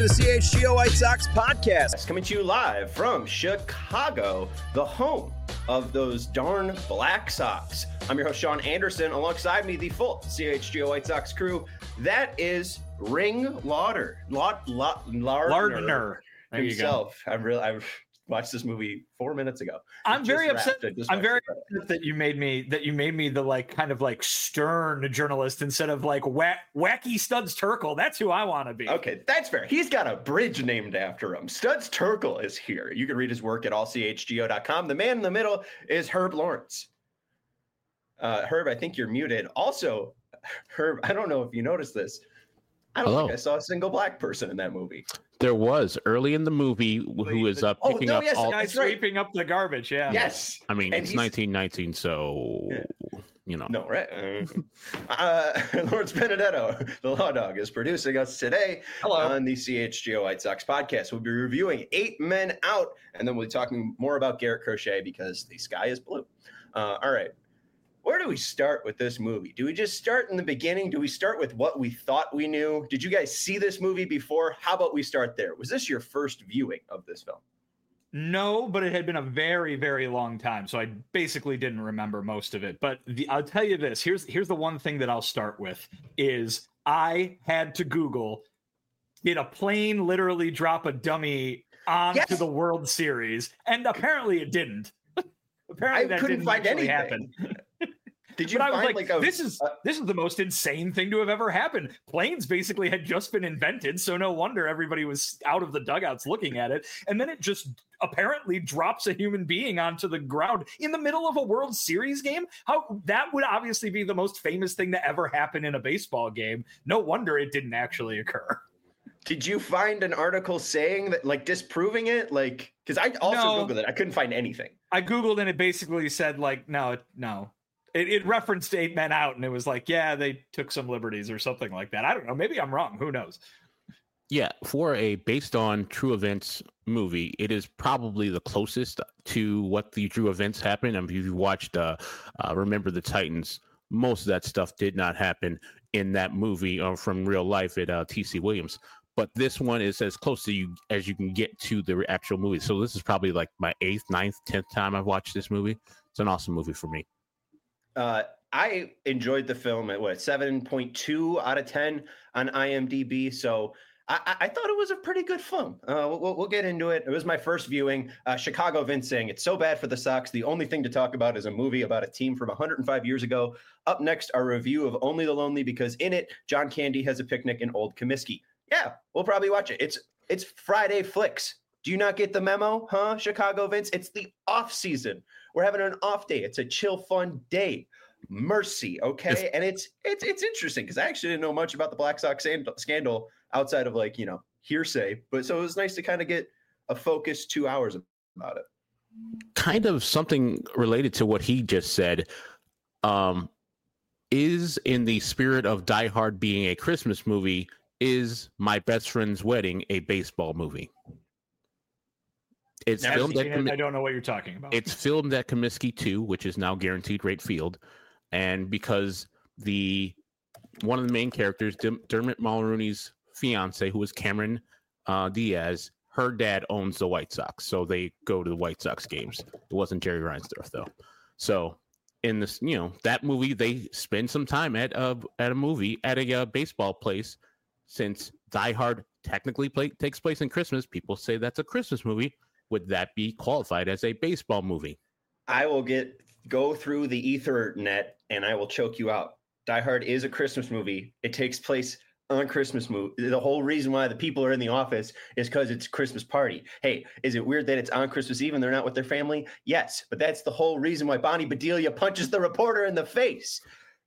the CHGO White Sox podcast. Coming to you live from Chicago, the home of those darn Black Sox. I'm your host, Sean Anderson. Alongside me, the full CHGO White Sox crew. That is Ring Lauder. Lardner himself. I've watched this movie 4 minutes ago. I'm very upset that you made me the like kind of like stern journalist instead of like wacky Studs Terkel. That's who I want to be. Okay, that's fair. He's got a bridge named after him. Studs Terkel is here. You can read his work at allchgo.com. The man in the middle is Herb Lawrence. Herb, I think you're muted. Also, Herb, I don't know if you noticed this. I don't think I saw a single black person in that movie. There was early in the movie who is picking up all guys sweeping up the garbage. Yeah. Yes. I mean, it's 1919, so you know. No, right? Lawrence Benedetto, the Law Dog, is producing us today on the CHGO White Sox podcast. We'll be reviewing 8 Men Out, and then we'll be talking more about Garrett Crochet because the sky is blue. All right. Where do we start with this movie? Do we just start in the beginning? Do we start with what we thought we knew? Did you guys see this movie before? How about we start there? Was this your first viewing of this film? No, but it had been a very, very long time, so I basically didn't remember most of it. But I'll tell you this. Here's the one thing that I'll start with is I had to Google, did a plane literally drop a dummy onto the World Series? And apparently it didn't. Apparently that couldn't find anything. Happen. Did you find this is the most insane thing to have ever happened. Planes basically had just been invented, so no wonder everybody was out of the dugouts looking at it. And then it just apparently drops a human being onto the ground in the middle of a World Series game. How that would obviously be the most famous thing to ever happen in a baseball game. No wonder it didn't actually occur. Did you find an article saying that, like, disproving it? Like, because I also Googled it. I couldn't find anything. I Googled and it basically said, like, no. It referenced 8 Men Out, and it was like, yeah, they took some liberties or something like that. I don't know. Maybe I'm wrong. Who knows? Yeah, for a based on true events movie, it is probably the closest to what the true events happened. I mean, if you watched Remember the Titans, most of that stuff did not happen in that movie from real life at T.C. Williams. But this one is as close to you as you can get to the actual movie. So this is probably like my 8th, 9th, 10th time I've watched this movie. It's an awesome movie for me. I enjoyed the film at 7.2 out of 10 on IMDb. So I thought it was a pretty good film. We'll get into it. It was my first viewing. Chicago Vince saying it's so bad for the Sox. The only thing to talk about is a movie about a team from 105 years ago. Up next, our review of Only the Lonely, because in it, John Candy has a picnic in Old Comiskey. Yeah, we'll probably watch it. It's Friday Flicks. Do you not get the memo, huh, Chicago Vince? It's the off season. We're having an off day. It's a chill, fun day. Mercy, okay? And it's interesting because I actually didn't know much about the Black Sox scandal outside of, like, hearsay. But so it was nice to kind of get a focused 2 hours about it. Kind of something related to what he just said. Is in the spirit of Die Hard being a Christmas movie, is My Best Friend's Wedding a baseball movie? It's filmed at I don't know what you're talking about. It's filmed at Comiskey 2, which is now Guaranteed Rate Field. And because one of the main characters, Dermot Mulroney's fiance, who is Cameron Diaz, her dad owns the White Sox. So they go to the White Sox games. It wasn't Jerry Reinsdorf, though. So in this, that movie, they spend some time at a baseball place. Since Die Hard technically takes place in Christmas, people say that's a Christmas movie. Would that be qualified as a baseball movie? I will go through the Ethernet and I will choke you out. Die Hard is a Christmas movie. It takes place on Christmas movie. The whole reason why the people are in the office is because it's a Christmas party. Hey, is it weird that it's on Christmas Eve and they're not with their family? Yes, but that's the whole reason why Bonnie Bedelia punches the reporter in the face.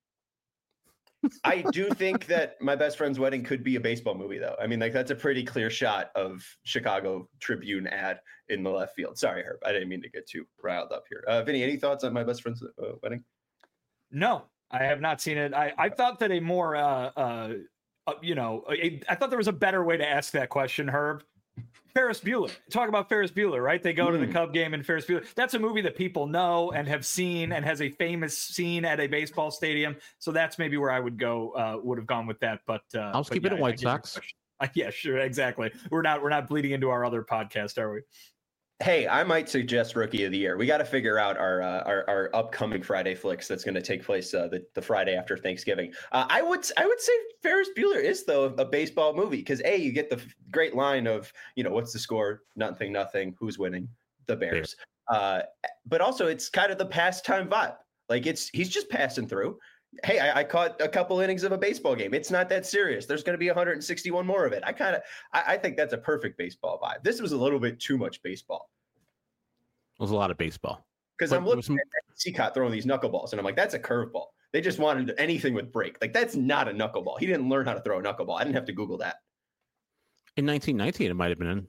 I do think that My Best Friend's Wedding could be a baseball movie, though. I mean, like, that's a pretty clear shot of Chicago Tribune ad in the left field. Sorry, Herb. I didn't mean to get too riled up here. Vinny, any thoughts on My Best Friend's Wedding? No, I have not seen it. I thought that a more, I thought there was a better way to ask that question, Herb. Ferris Bueller. Talk about Ferris Bueller, right? They go to the Cub game and Ferris Bueller. That's a movie that people know and have seen and has a famous scene at a baseball stadium. So that's maybe where I would have gone with that. But I'll keep it at White Sox. Yeah, sure, exactly. We're not bleeding into our other podcast, are we? Hey, I might suggest Rookie of the Year. We got to figure out our upcoming Friday flicks that's going to take place the Friday after Thanksgiving. I would say Ferris Bueller is though a baseball movie because you get the great line of what's the score? Nothing. Who's winning? The Bears. But also it's kind of the pastime vibe. Like he's just passing through. Hey, I caught a couple innings of a baseball game. It's not that serious. There's going to be 161 more of it. I think that's a perfect baseball vibe. This was a little bit too much baseball. It was a lot of baseball. Because I'm looking at Cicotte throwing these knuckleballs, and I'm like, that's a curveball. They just wanted anything with break. Like, that's not a knuckleball. He didn't learn how to throw a knuckleball. I didn't have to Google that. In 1919, it might have been.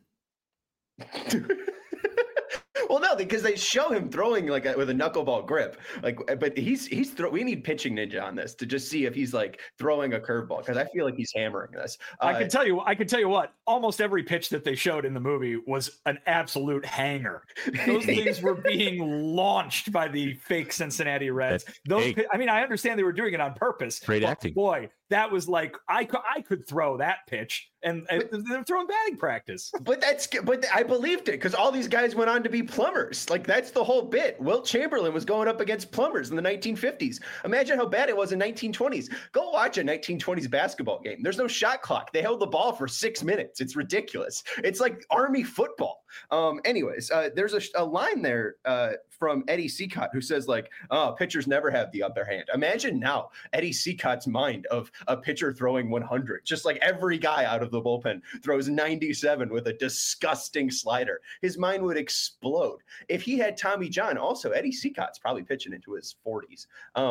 Well, no, because they show him throwing with a knuckleball grip. But we need pitching ninja on this to just see if he's like throwing a curveball because I feel like he's hammering this. I can tell you what. Almost every pitch that they showed in the movie was an absolute hanger. Those things were being launched by the fake Cincinnati Reds. I understand they were doing it on purpose. Great acting, boy. That was like I could throw that pitch, and they're throwing batting practice. But I believed it because all these guys went on to be plumbers. Like that's the whole bit. Wilt Chamberlain was going up against plumbers in the 1950s. Imagine how bad it was in 1920s. Go watch a 1920s basketball game. There's no shot clock. They held the ball for 6 minutes. It's ridiculous. It's like Army football. Anyways, there's a line there from Eddie Cicotte who says pitchers never have the upper hand. Imagine now Eddie Cicotte's mind of a pitcher throwing 100, just like every guy out of the bullpen throws 97 with a disgusting slider. His mind would explode. If he had Tommy John, also Eddie Cicotte's probably pitching into his 40s.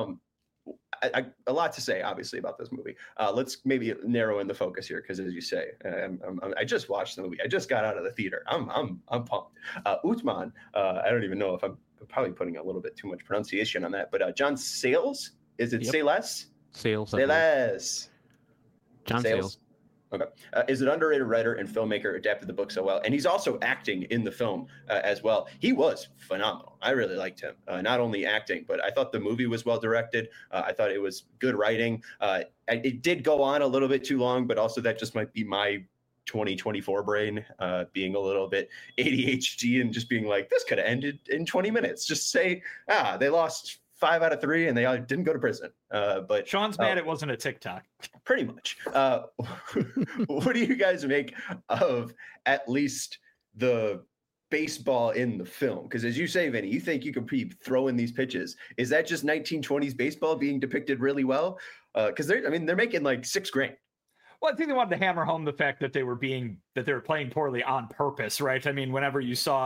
A lot to say, obviously, about this movie. Let's maybe narrow in the focus here, because as you say, I just watched the movie. I just got out of the theater. I'm pumped. Uthman, I don't even know if I'm probably putting a little bit too much pronunciation on that, but John Sayles, is it Sayles? Sayles. John Sayles. Okay. Is an underrated writer and filmmaker, adapted the book so well. And he's also acting in the film as well. He was phenomenal. I really liked him. Not only acting, but I thought the movie was well directed. I thought it was good writing. It did go on a little bit too long, but also that just might be my 2024 brain being a little bit ADHD and just being like, this could have ended in 20 minutes. Just say, they lost 5 out of 3 and they didn't go to prison. But Sean's mad it wasn't a TikTok. Pretty much. What do you guys make of at least the baseball in the film? Because as you say, Vinny, you think you could be throwing these pitches. Is that just 1920s baseball being depicted really well? Because they're making like $6,000. Well, I think they wanted to hammer home the fact that they were playing poorly on purpose, right? I mean, whenever you saw,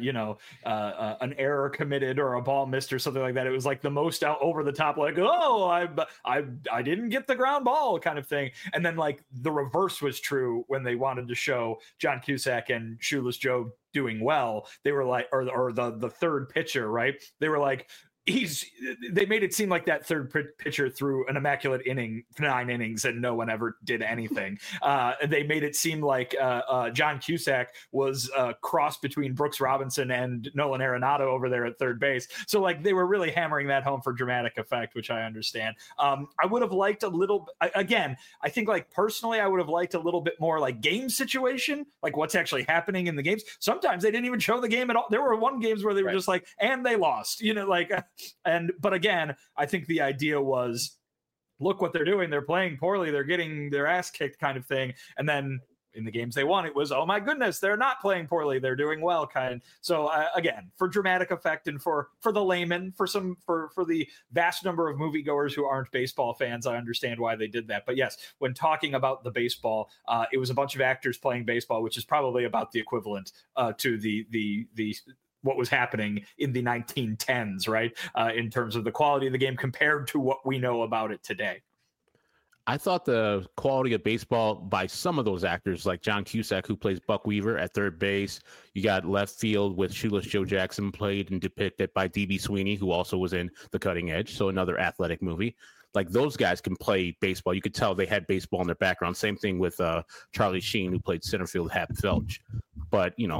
an error committed or a ball missed or something like that, it was like the most over the top, like, oh, I didn't get the ground ball kind of thing. And then like the reverse was true when they wanted to show John Cusack and Shoeless Joe doing well. They were like, or the third pitcher, right? They were like, they made it seem like that third pitcher threw an immaculate 9 innings and no one ever did anything. They made it seem like John Cusack was a cross between Brooks Robinson and Nolan Arenado over there at third base. So like they were really hammering that home for dramatic effect, which I understand. I would have liked a little, again, I think like personally, I would have liked a little bit more like game situation, like what's actually happening in the games. Sometimes they didn't even show the game at all. There were one games where they were just like, and they lost, but again, I think the idea was, look what they're doing. They're playing poorly. They're getting their ass kicked kind of thing. And then in the games they won, it was, oh my goodness, they're not playing poorly. They're doing well kind. So again, for dramatic effect and for the layman, for the vast number of moviegoers who aren't baseball fans, I understand why they did that. But yes, when talking about the baseball, it was a bunch of actors playing baseball, which is probably about the equivalent to the what was happening in the 1910s, right? In terms of the quality of the game compared to what we know about it today. I thought the quality of baseball by some of those actors, like John Cusack, who plays Buck Weaver at third base. You got left field with Shoeless Joe Jackson, played and depicted by D.B. Sweeney, who also was in The Cutting Edge, so another athletic movie. Like those guys can play baseball. You could tell they had baseball in their background. Same thing with Charlie Sheen, who played center field Hap Felch. But,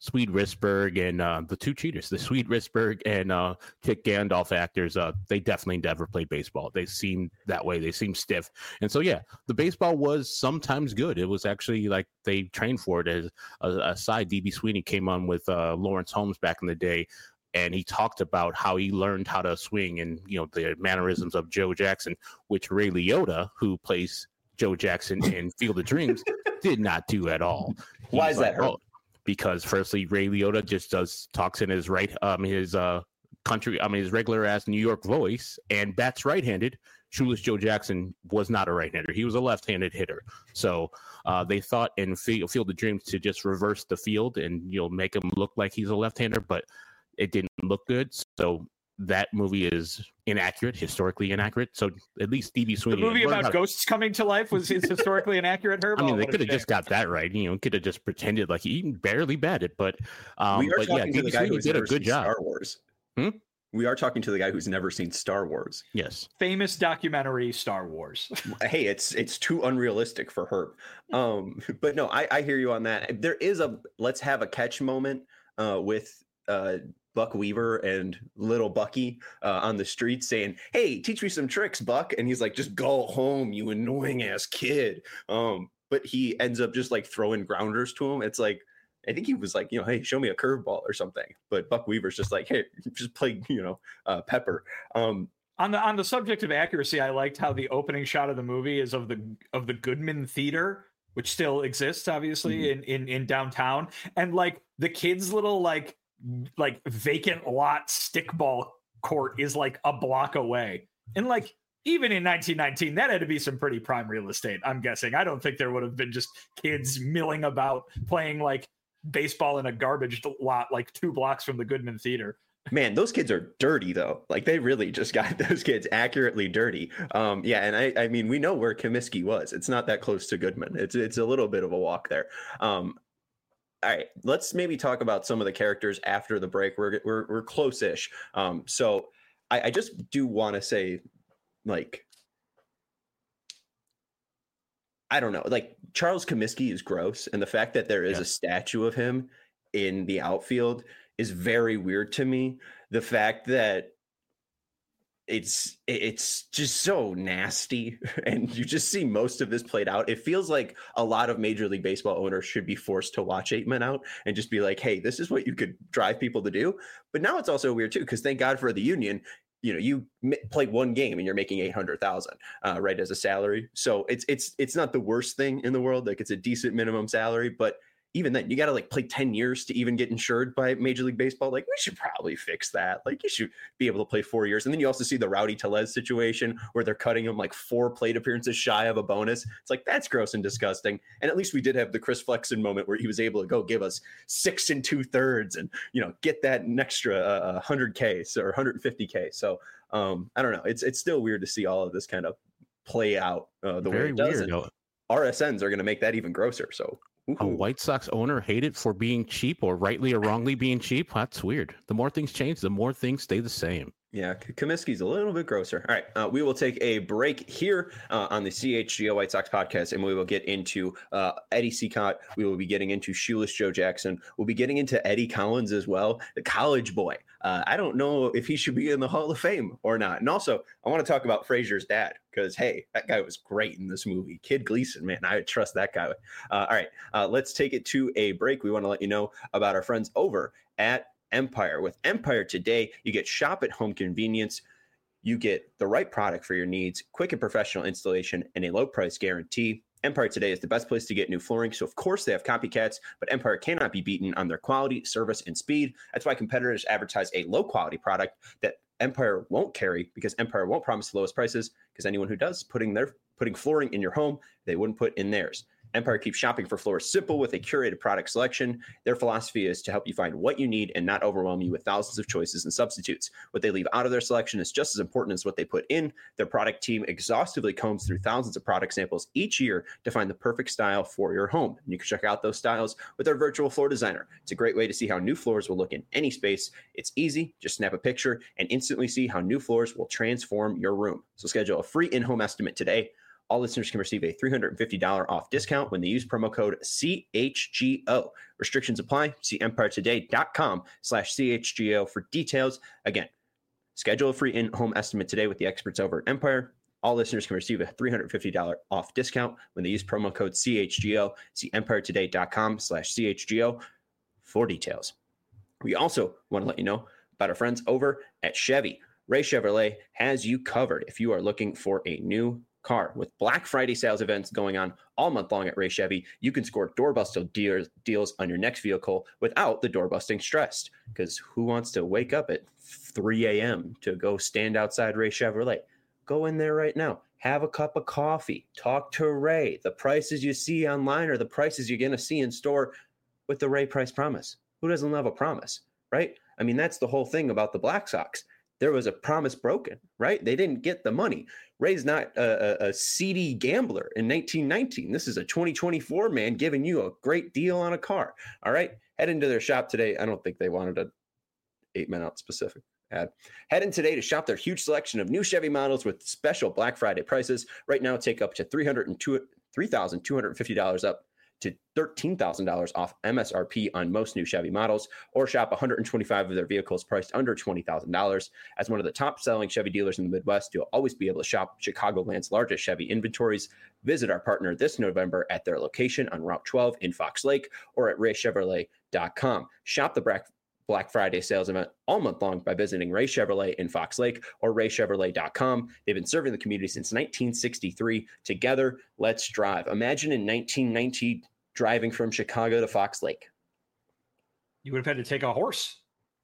Swede Risberg and the two cheaters, the Swede Risberg and Kit Gandalf actors, they definitely never played baseball. They seem that way. They seem stiff. And so, yeah, the baseball was sometimes good. It was actually like they trained for it. As a side, D.B. Sweeney came on with Lawrence Holmes back in the day, and he talked about how he learned how to swing and, the mannerisms of Joe Jackson, which Ray Liotta, who plays Joe Jackson in Field of Dreams, did not do at all. Why is that? Because firstly, Ray Liotta just talks in his his regular ass New York voice and bats right-handed. Shoeless Joe Jackson was not a right-hander. He was a left-handed hitter. So they thought in Field of Dreams to just reverse the field and make him look like he's a left-hander, but it didn't look good. So that movie is inaccurate, historically inaccurate. So at least D.B. Sweeney. The movie about ghosts coming to life is historically inaccurate, Herb? I mean, they could have just got that right. Could have just pretended like he barely batted. But D.B. Sweeney did a good job. Star Wars. We are talking to the guy who's never seen Star Wars. Yes. Famous documentary Star Wars. Hey, it's too unrealistic for Herb. But no, I hear you on that. There is a let's have a catch moment with Buck Weaver and little Bucky on the street saying, "Hey, teach me some tricks, Buck." And he's like, "Just go home, you annoying ass kid." But he ends up just like throwing grounders to him. It's like, I think he was like, "Hey, show me a curveball or something." But Buck Weaver's just like, "Hey, just play, Pepper." On the subject of accuracy, I liked how the opening shot of the movie is of the Goodman Theater, which still exists, obviously, in downtown, and like the kids' little like vacant lot stickball court is like a block away. And like, even in 1919, that had to be some pretty prime real estate, I'm guessing. I don't think there would have been just kids milling about playing like baseball in a garbage lot like 2 blocks from the Goodman Theater. Man, those kids are dirty though. Like they really just got those kids accurately dirty. And I mean, we know where Comiskey was. It's not that close to Goodman. It's a little bit of a walk there. All right, let's maybe talk about some of the characters after the break. We're close-ish. So I just do want to say, like, I don't know, like Charles Comiskey is gross, and the fact that there is a statue of him in the outfield is very weird to me. The fact that it's just so nasty, and you just see most of this played out. It feels like a lot of Major League Baseball owners should be forced to watch 8 Men Out and just be like, "Hey, this is what you could drive people to do." But now it's also weird too, because thank God for the union. You play 1 game and you're making $800,000 right as a salary. So it's not the worst thing in the world. Like, it's a decent minimum salary, but even then, you got to like play 10 years to even get insured by Major League Baseball. Like, we should probably fix that. Like, you should be able to play 4 years. And then you also see the Rowdy Tellez situation where they're cutting him like 4 plate appearances shy of a bonus. It's like, that's gross and disgusting. And at least we did have the Chris Flexen moment where he was able to go give us 6 2/3 and, get that an extra 100K or 150K. So I don't know. It's still weird to see all of this kind of play out the way it does. And RSNs are going to make that even grosser. So a White Sox owner hated for being cheap, or rightly or wrongly being cheap? That's weird. The more things change, the more things stay the same. Yeah, Comiskey's a little bit grosser. All right, we will take a break here on the CHGO White Sox podcast, and we will get into Eddie Cicotte. We will be getting into Shoeless Joe Jackson. We'll be getting into Eddie Collins as well, the college boy. I don't know if he should be in the Hall of Fame or not. And also, I want to talk about Frazier's dad, because, hey, that guy was great in this movie. Kid Gleason, man, I trust that guy. All right, let's take it to a break. We want to let you know about our friends over at Empire. With Empire today, you get shop at home convenience. You get the right product for your needs, quick and professional installation, and a low price guarantee. Empire today is the best place to get new flooring. So, of course, they have copycats, but Empire cannot be beaten on their quality, service, and speed. That's why competitors advertise a low quality product that Empire won't carry, because Empire won't promise the lowest prices, because anyone who does putting flooring in your home, they wouldn't put in theirs. Empire keeps shopping for floors simple with a curated product selection. Their philosophy is to help you find what you need and not overwhelm you with thousands of choices and substitutes. What they leave out of their selection is just as important as what they put in. Their product team exhaustively combs through thousands of product samples each year to find the perfect style for your home. And you can check out those styles with their virtual floor designer. It's a great way to see how new floors will look in any space. It's easy. Just snap a picture and instantly see how new floors will transform your room. So schedule a free in-home estimate today. All listeners can receive a $350 off discount when they use promo code CHGO. Restrictions apply. See EmpireToday.com/CHGO for details. Again, schedule a free in-home estimate today with the experts over at Empire. All listeners can receive a $350 off discount when they use promo code CHGO. See EmpireToday.com/CHGO for details. We also want to let you know about our friends over at Chevy. Ray Chevrolet has you covered if you are looking for a new car. With Black Friday sales events going on all month long at Ray Chevy, you can score doorbusting deals on your next vehicle without the doorbusting stress. Because who wants to wake up at 3 a.m. to go stand outside Ray Chevrolet? Go in there right now. Have a cup of coffee. Talk to Ray. The prices you see online are the prices you're going to see in store with the Ray Price Promise. Who doesn't love a promise, right? I mean, that's the whole thing about the Black Sox. There was a promise broken, right? They didn't get the money. Ray's not a seedy gambler in 1919. This is a 2024 man giving you a great deal on a car. All right, head into their shop today. I don't think they wanted a 8-minute specific ad. Head in today to shop their huge selection of new Chevy models with special Black Friday prices. Right now, take up to $3,250 up to $13,000 off MSRP on most new Chevy models, or shop 125 of their vehicles priced under $20,000. As one of the top-selling Chevy dealers in the Midwest, you'll always be able to shop Chicagoland's largest Chevy inventories. Visit our partner this November at their location on Route 12 in Fox Lake or at raychevrolet.com. Shop the Black Friday sales event all month long by visiting Ray Chevrolet in Fox Lake or raychevrolet.com. They've been serving the community since 1963. Together, let's drive. Imagine in 1990 driving from Chicago to Fox Lake. You would have had to take a horse.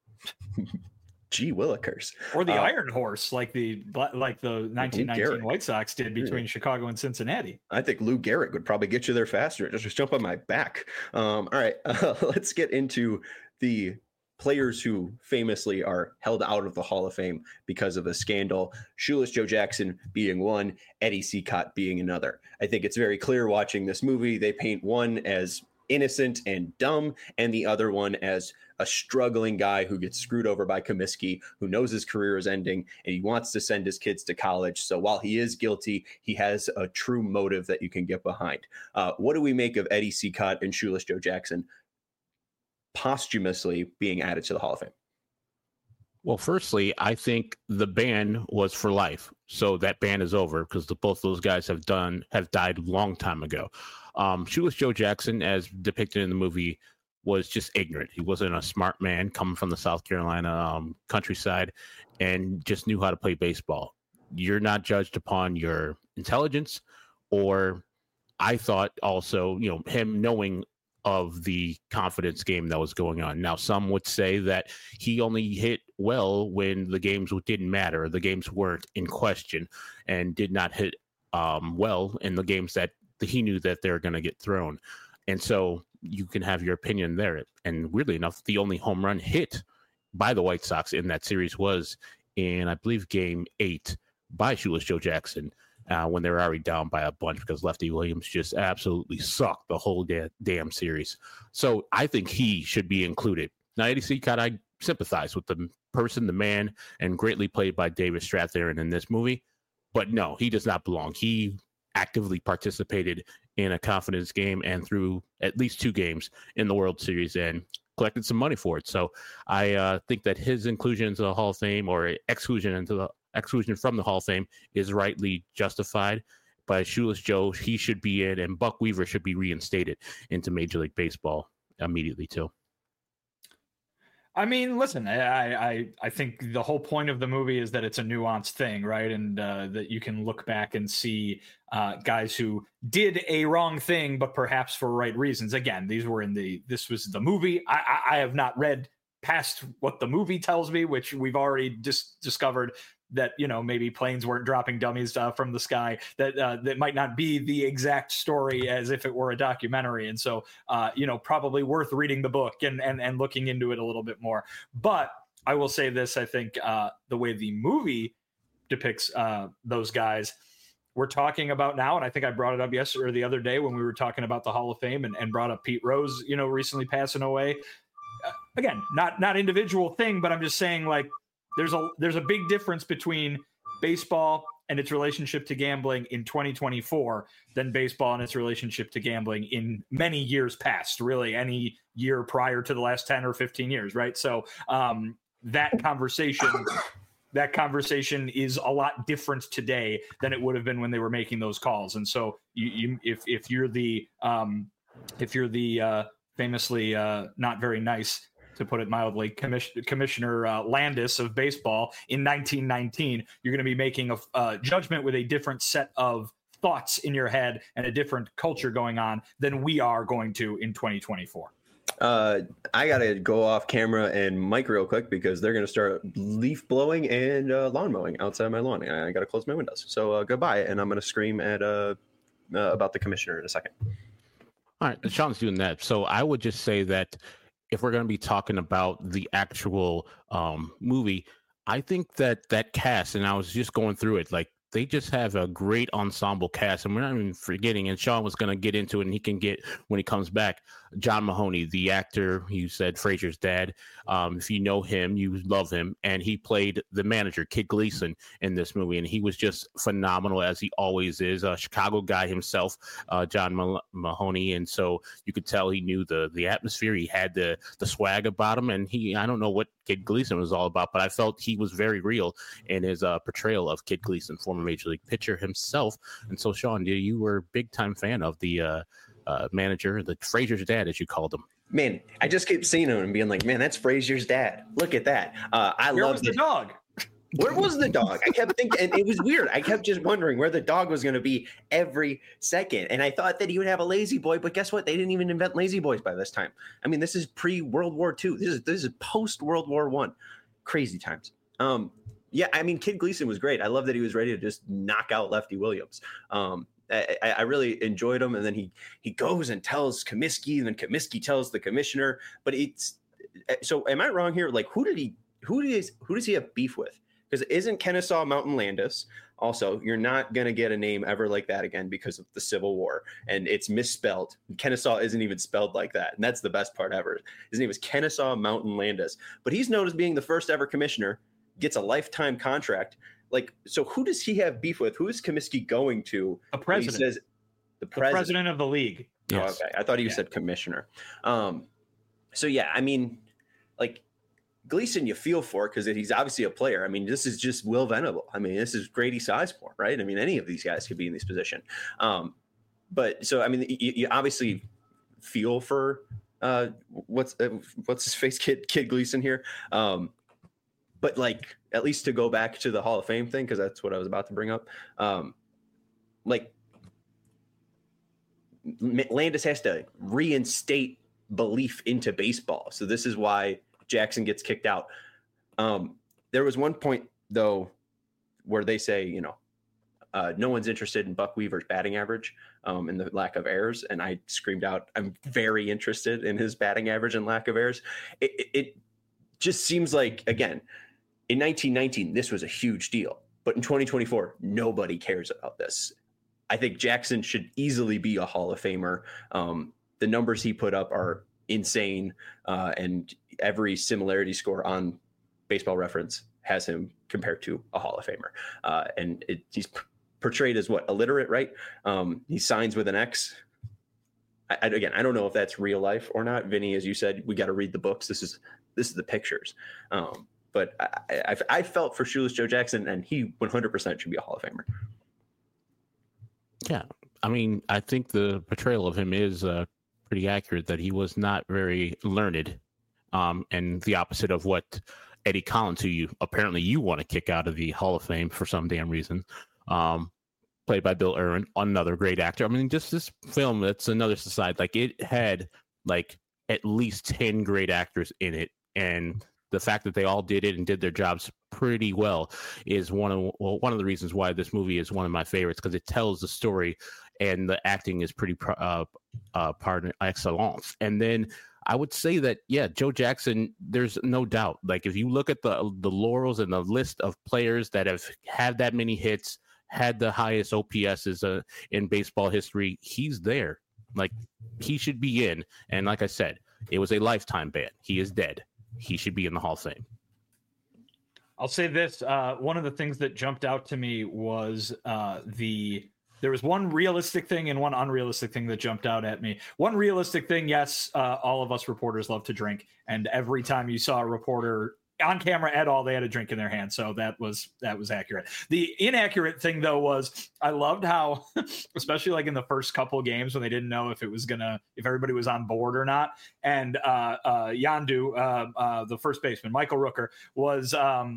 Gee willikers. Or the Iron Horse, like the 1919 White Sox did between Chicago and Cincinnati. I think Lou Gehrig would probably get you there faster. Just jump on my back. All right, let's get into the players who famously are held out of the Hall of Fame because of a scandal. Shoeless Joe Jackson being one, Eddie Cicotte being another. I think it's very clear watching this movie. They paint one as innocent and dumb, and the other one as a struggling guy who gets screwed over by Comiskey, who knows his career is ending, and he wants to send his kids to college. So while he is guilty, he has a true motive that you can get behind. What do we make of Eddie Cicotte and Shoeless Joe Jackson posthumously being added to the Hall of Fame? Well, firstly, I think the ban was for life. So that ban is over because both those guys have died a long time ago. Shoeless Joe Jackson, as depicted in the movie, was just ignorant. He wasn't a smart man coming from the South Carolina countryside and just knew how to play baseball. You're not judged upon your intelligence, or I thought also, him knowing of the confidence game that was going on. Now, some would say that he only hit well when the games didn't matter, the games weren't in question, and did not hit well in the games that he knew that they're going to get thrown. And so you can have your opinion there. And weirdly enough, the only home run hit by the White Sox in that series was in, I believe, Game 8 by Shoeless Joe Jackson, when they were already down by a bunch because Lefty Williams just absolutely sucked the whole damn series. So I think he should be included. Now, Eddie Cicotte, I sympathize with the person, the man, and greatly played by David Strathairn in this movie. But no, he does not belong. He actively participated in a confidence game and threw at least 2 games in the World Series and collected some money for it. So I think that his inclusion into the Hall of Fame, or exclusion from the Hall of Fame, is rightly justified. But Shoeless Joe, he should be in, and Buck Weaver should be reinstated into Major League Baseball immediately too. I mean, listen, I think the whole point of the movie is that it's a nuanced thing, right? And that you can look back and see guys who did a wrong thing, but perhaps for right reasons. Again, this was the movie. I have not read past what the movie tells me, which we've already discovered that, maybe planes weren't dropping dummies from the sky, that might not be the exact story as if it were a documentary. And so, probably worth reading the book and looking into it a little bit more. But I will say this, I think the way the movie depicts those guys we're talking about now, and I think I brought it up yesterday or the other day when we were talking about the Hall of Fame and brought up Pete Rose, recently passing away. Again, not individual thing, but I'm just saying, like, there's a big difference between baseball and its relationship to gambling in 2024 than baseball and its relationship to gambling in many years past, really any year prior to the last 10 or 15 years, right? So that conversation is a lot different today than it would have been when they were making those calls. And so if you're the famously not very nice, to put it mildly, Commissioner Landis of baseball in 1919, you're going to be making a judgment with a different set of thoughts in your head and a different culture going on than we are going to in 2024. I gotta go off camera and mic real quick because they're gonna start leaf blowing and lawn mowing outside my lawn. I gotta close my windows. So goodbye, and I'm gonna scream at about the commissioner in a second. All right, Sean's doing that. So I would just say that if we're going to be talking about the actual movie, I think that cast, and I was just going through it, like they just have a great ensemble cast, and we're not even forgetting, and Sean was going to get into it, and he can get, when he comes back, John Mahoney, the actor, you said Frasier's dad. If you know him, you love him, and he played the manager, Kid Gleason, in this movie, and he was just phenomenal, as he always is. A Chicago guy himself, John Mahoney, and so you could tell he knew the atmosphere. He had the swag about him, and I don't know what Kid Gleason was all about, but I felt he was very real in his portrayal of Kid Gleason, former Major League pitcher himself. And so, Sean, you were a big-time fan of the manager, the Frasier's dad, as you called him. Man, I just kept seeing him and being like, man, that's Frasier's dad. Look at that. Where was the dog? Where was the dog? I kept thinking, and it was weird. I kept just wondering where the dog was going to be every second. And I thought that he would have a lazy boy, but guess what? They didn't even invent lazy boys by this time. I mean, this is pre-World War II. This is post-World War I. Crazy times. Yeah, I mean, Kid Gleason was great. I love that he was ready to just knock out Lefty Williams. I really enjoyed him. And then he goes and tells Comiskey, and then Comiskey tells the commissioner. But so am I wrong here? Like, who does he have beef with? Because it isn't Kennesaw Mountain Landis. Also, you're not going to get a name ever like that again because of the Civil War. And it's misspelled. Kennesaw isn't even spelled like that. And that's the best part ever. His name is Kennesaw Mountain Landis. But he's known as being the first ever commissioner, gets a lifetime contract. Like, so who does he have beef with? Who is Comiskey going to? The president. He says the president of the league. Yes. Oh, okay. I thought you said commissioner. So, yeah, I mean, like, Gleason you feel for because he's obviously a player. I mean, this is just Will Venable. I mean, this is Grady Sizemore, right? I mean, any of these guys could be in this position. But so, I mean, you obviously feel for what's his face, Kid Gleason here. But like, at least to go back to the Hall of Fame thing, because that's what I was about to bring up. Like, Landis has to reinstate belief into baseball. So this is why Jackson gets kicked out. There was one point, though, where they say, no one's interested in Buck Weaver's batting average and the lack of errors. And I screamed out, I'm very interested in his batting average and lack of errors. It just seems like, again, in 1919, this was a huge deal. But in 2024, nobody cares about this. I think Jackson should easily be a Hall of Famer. The numbers he put up are insane, and every similarity score on Baseball Reference has him compared to a Hall of Famer. And he's portrayed as what, illiterate, right? He signs with an X. Again, I don't know if that's real life or not. Vinny, as you said, we got to read the books. This is the pictures. But I felt for Shoeless Joe Jackson, and he 100% should be a Hall of Famer. Yeah, I mean, I think the portrayal of him is pretty accurate, that he was not very learned, and the opposite of what Eddie Collins, who you want to kick out of the Hall of Fame for some damn reason, played by Bill Irwin, another great actor. I mean, just this film, that's another society. Like, it had like at least 10 great actors in it, and the fact that they all did it and did their jobs pretty well is one of the reasons why this movie is one of my favorites, because it tells the story and the acting is pretty par excellence. And then I would say that, yeah, Joe Jackson, there's no doubt. Like, if you look at the laurels and the list of players that have had that many hits, had the highest OPSs in baseball history, he's there. Like, he should be in. And like I said, it was a lifetime ban. He is dead. He should be in the Hall of Fame. I'll say this. One of the things that jumped out to me was there was one realistic thing and one unrealistic thing that jumped out at me. One realistic thing, yes, all of us reporters love to drink. And every time you saw a reporter on camera at all, they had a drink in their hand. So that was accurate. The inaccurate thing, though, was I loved how, especially like in the first couple games when they didn't know if everybody was on board or not. And Yandu, the first baseman, Michael Rooker, was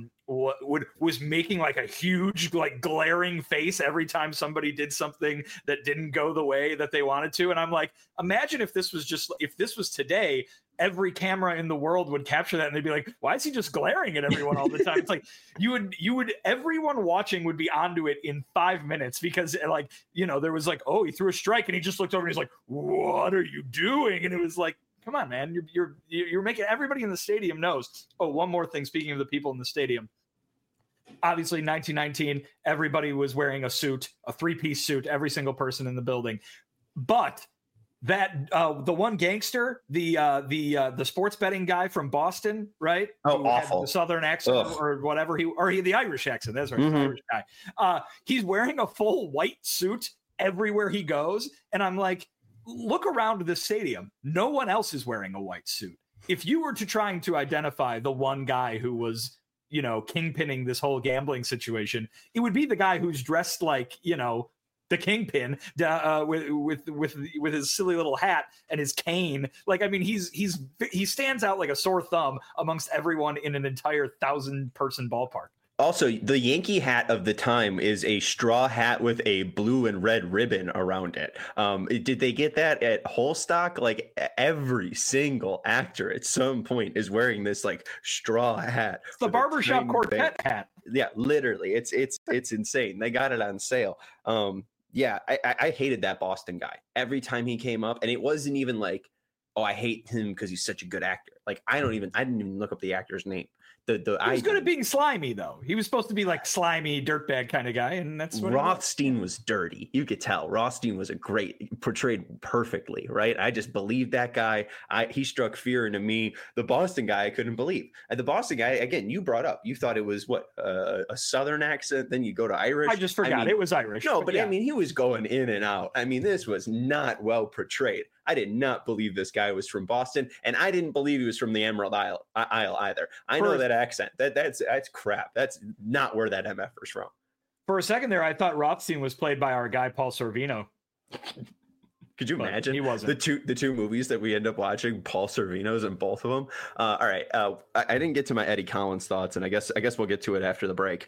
making like a huge, like glaring face every time somebody did something that didn't go the way that they wanted to. And I'm like, imagine if this was today, every camera in the world would capture that and they'd be like, why is he just glaring at everyone all the time? It's like everyone watching would be onto it in 5 minutes because like, there was like, oh, he threw a strike and he just looked over and he's like, what are you doing? And it was like, come on, man, you're making everybody in the stadium knows. Oh, one more thing. Speaking of the people in the stadium, obviously 1919, everybody was wearing a suit, a 3-piece suit, every single person in the building. But that the one gangster, the sports betting guy from Boston, right? Oh, who awful. had the Southern accent. Ugh. Or whatever the Irish accent. That's right, Mhm. the Irish guy. He's wearing a full white suit everywhere he goes, and I'm like, look around this stadium. No one else is wearing a white suit. If you were trying to identify the one guy who was, kingpinning this whole gambling situation, it would be the guy who's dressed like, the kingpin with his silly little hat and his cane. Like, I mean, he stands out like a sore thumb amongst everyone in an entire 1,000-person ballpark. Also, the Yankee hat of the time is a straw hat with a blue and red ribbon around it. Did they get that at Holstock? Like every single actor at some point is wearing this like straw hat. It's the barbershop quartet hat. Yeah, literally. It's insane. They got it on sale. Yeah, I hated that Boston guy every time he came up. And it wasn't even like, oh, I hate him because he's such a good actor. Like, I didn't even look up the actor's name. He was good at being slimy, though. He was supposed to be like slimy dirtbag kind of guy, and that's what Rothstein was dirty. You could tell. Rothstein was portrayed perfectly, right? I just believed that guy. He struck fear into me. The Boston guy, I couldn't believe. And the Boston guy, again, you brought up. You thought it was a Southern accent. Then you go to Irish. I just forgot it was Irish. No, but yeah. I mean, he was going in and out. I mean, this was not well portrayed. I did not believe this guy was from Boston, and I didn't believe he was from the Emerald Isle either. I know that accent. That's crap. That's not where that MFer's from. For a second there, I thought Rothstein was played by our guy Paul Sorvino. Could you imagine? He wasn't. The two movies that we end up watching, Paul Sorvino's in both of them. All right, I didn't get to my Eddie Collins thoughts, and I guess we'll get to it after the break.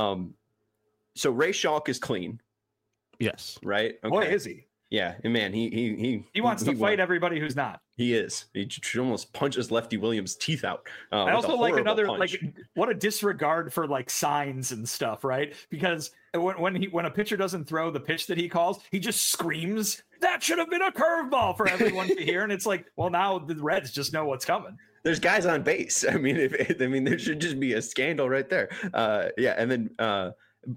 So Ray Schalk is clean. Yes. Right. Okay. Boy, is he? Yeah, man, he wants to fight everybody who's not. He is. He almost punches Lefty Williams' teeth out. I also like another punch. like what a disregard for like signs and stuff, right? Because when a pitcher doesn't throw the pitch that he calls, he just screams, "That should have been a curveball" for everyone to hear, and it's like, well, now the Reds just know what's coming. There's guys on base. I mean, there should just be a scandal right there. Yeah, and then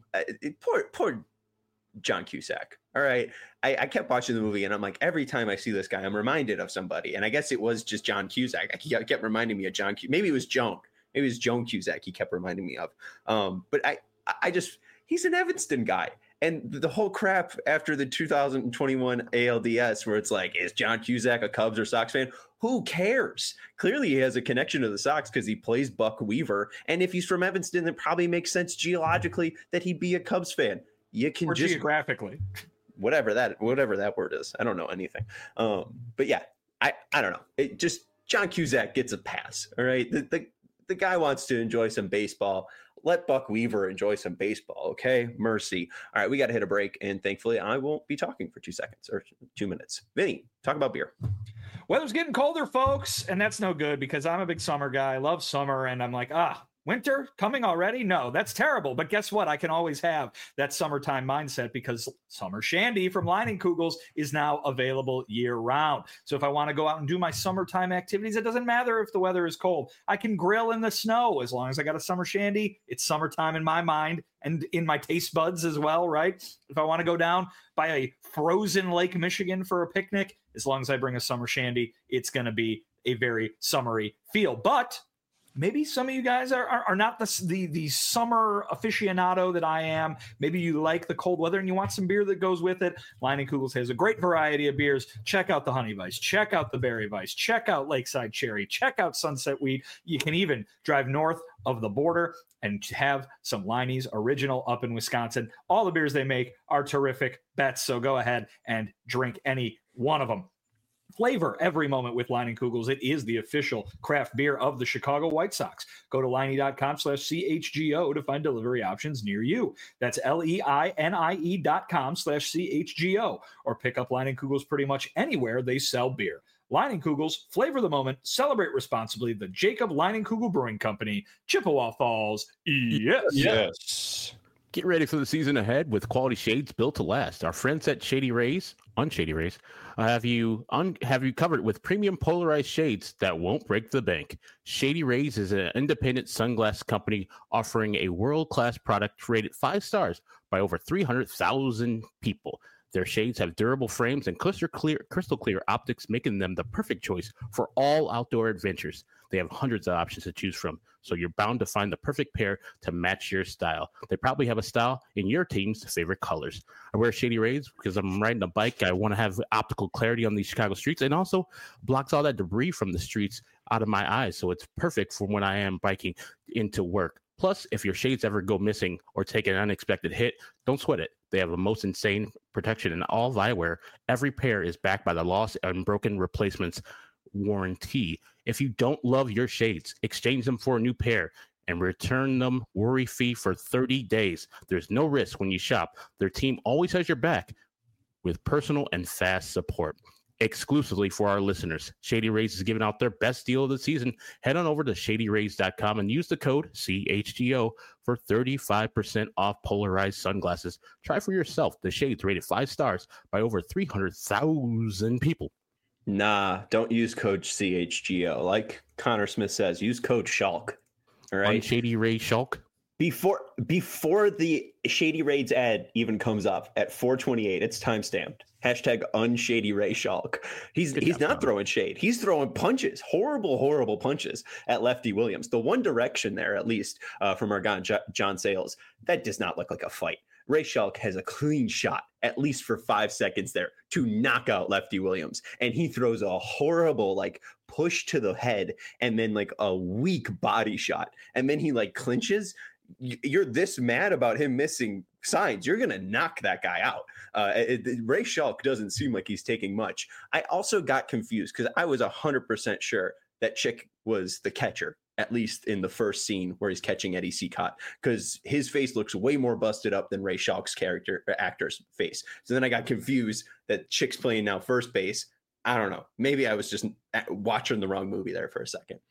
poor John Cusack. All right. I kept watching the movie and I'm like, every time I see this guy, I'm reminded of somebody. And I guess it was just John Cusack. He kept reminding me of John. Maybe it was Joan. Maybe it was Joan Cusack he kept reminding me of. But he's an Evanston guy. And the whole crap after the 2021 ALDS where it's like, is John Cusack a Cubs or Sox fan? Who cares? Clearly he has a connection to the Sox because he plays Buck Weaver. And if he's from Evanston, it probably makes sense geologically that he'd be a Cubs fan. You can just geographically, whatever that word is. I don't know anything. But yeah, I don't know. It just John Cusack gets a pass. All right. The guy wants to enjoy some baseball. Let Buck Weaver enjoy some baseball. Okay. Mercy. All right. We got to hit a break. And thankfully I won't be talking for 2 seconds or 2 minutes. Vinny, talk about beer. Weather's getting colder, folks. And that's no good because I'm a big summer guy. I love summer. And I'm like, winter coming already? No, that's terrible. But guess what? I can always have that summertime mindset because Summer Shandy from Leinenkugels is now available year round. So if I want to go out and do my summertime activities, it doesn't matter if the weather is cold. I can grill in the snow as long as I got a Summer Shandy. It's summertime in my mind and in my taste buds as well, right? If I want to go down by a frozen Lake Michigan for a picnic, as long as I bring a Summer Shandy, it's going to be a very summery feel. But maybe some of you guys are not the summer aficionado that I am. Maybe you like the cold weather and you want some beer that goes with it. Leinenkugels has a great variety of beers. Check out the Honey Weiss. Check out the Berry Weiss. Check out Lakeside Cherry. Check out Sunset Wheat. You can even drive north of the border and have some Leinie's Original up in Wisconsin. All the beers they make are terrific bets, so go ahead and drink any one of them. Flavor every moment with Leinenkugels. It is the official craft beer of the Chicago White Sox. Go to Leinie.com/CHGO to find delivery options near you. That's LEINIE.com/CHGO, or pick up Leinenkugels pretty much anywhere they sell beer. Leinenkugels, flavor the moment, celebrate responsibly. The Jacob Leinenkugel Brewing Company, Chippewa Falls. Yes. Get ready for the season ahead with quality shades built to last. Our friends at Shady Rays, Unshady Rays, have you covered with premium polarized shades that won't break the bank. Shady Rays is an independent sunglass company offering a world-class product rated 5 stars by over 300,000 people. Their shades have durable frames and crystal clear optics, making them the perfect choice for all outdoor adventures. They have hundreds of options to choose from, so you're bound to find the perfect pair to match your style. They probably have a style in your team's favorite colors. I wear Shady Rays because I'm riding a bike. I want to have optical clarity on these Chicago streets, and also blocks all that debris from the streets out of my eyes, so it's perfect for when I am biking into work. Plus, if your shades ever go missing or take an unexpected hit, don't sweat it. They have the most insane protection in all eyewear. Every pair is backed by the lost and broken replacements warranty. If you don't love your shades, exchange them for a new pair and return them worry-free for 30 days. There's no risk when you shop. Their team always has your back with personal and fast support. Exclusively for our listeners, Shady Rays is giving out their best deal of the season. Head on over to shadyrays.com and use the code CHGO for 35% off polarized sunglasses. Try for yourself the shades rated 5 stars by over 300,000 people. Nah, don't use code CHGO. Like Connor Smith says, use code Shulk. All right. Shady Ray Shulk. Before the Shady Raids ad even comes up at 4:28, it's timestamped. Hashtag unshady Ray Shulk. He's not throwing shade. He's throwing punches, horrible punches at Lefty Williams. The one direction there, at least from our guy John Sayles, that does not look like a fight. Ray Shulk has a clean shot, at least for 5 seconds there, to knock out Lefty Williams. And he throws a horrible, push to the head and then, a weak body shot. And then he, clinches. You're this mad about him missing signs. You're going to knock that guy out. Ray Shulk doesn't seem like he's taking much. I also got confused because I was 100% sure that Chick was the catcher, at least in the first scene where he's catching Eddie Cicotte, because his face looks way more busted up than Ray Shulk's actor's face. So then I got confused that Chick's playing now first base. I don't know. Maybe I was just watching the wrong movie there for a second.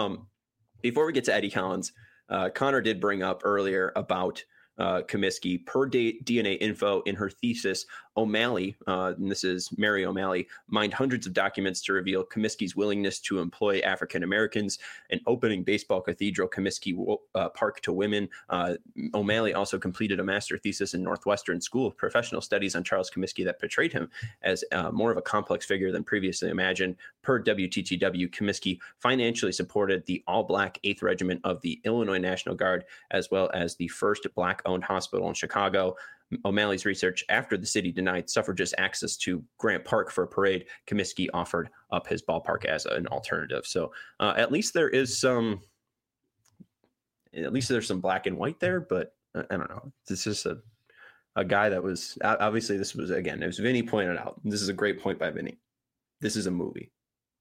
Before we get to Eddie Collins, Connor did bring up earlier about Comiskey. Per DNA info in her thesis, O'Malley, and this is Mary O'Malley, mined hundreds of documents to reveal Comiskey's willingness to employ African Americans and opening baseball cathedral Comiskey Park to women. O'Malley also completed a master thesis in Northwestern School of Professional Studies on Charles Comiskey that portrayed him as more of a complex figure than previously imagined. Per WTTW, Comiskey financially supported the all-black 8th Regiment of the Illinois National Guard, as well as the first black-owned hospital in Chicago. O'Malley's research: after the city denied suffragists access to Grant Park for a parade, Comiskey offered up his ballpark as an alternative. So at least there's some black and white there, but I don't know. This is a guy that was obviously, this was, again, as Vinny pointed out, this is a great point by Vinny. This is a movie.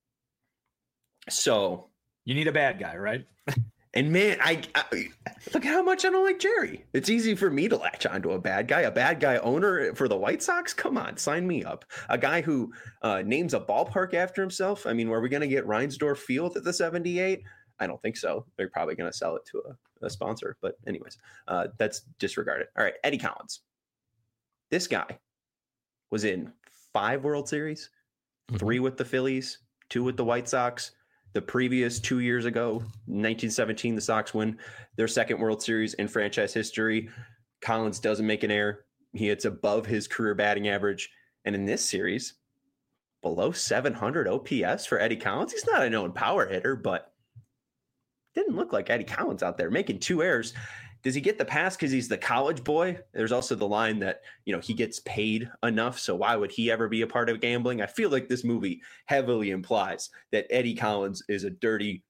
So you need a bad guy, right? And man, I look at how much I don't like Jerry. It's easy for me to latch onto a bad guy owner for the White Sox. Come on, sign me up. A guy who names a ballpark after himself. I mean, were we going to get Reinsdorf Field at the 78? I don't think so. They're probably going to sell it to a sponsor. But anyways, that's disregarded. All right, Eddie Collins. This guy was in 5 World Series, 3 with the Phillies, 2 with the White Sox. The previous 2 years ago, 1917, the Sox win their second World Series in franchise history. Collins doesn't make an error. He hits above his career batting average. And in this series, below 700 OPS for Eddie Collins. He's not a known power hitter, but didn't look like Eddie Collins out there making 2 errors. Does he get the pass because he's the college boy? There's also the line that, he gets paid enough, so why would he ever be a part of gambling? I feel like this movie heavily implies that Eddie Collins is a dirty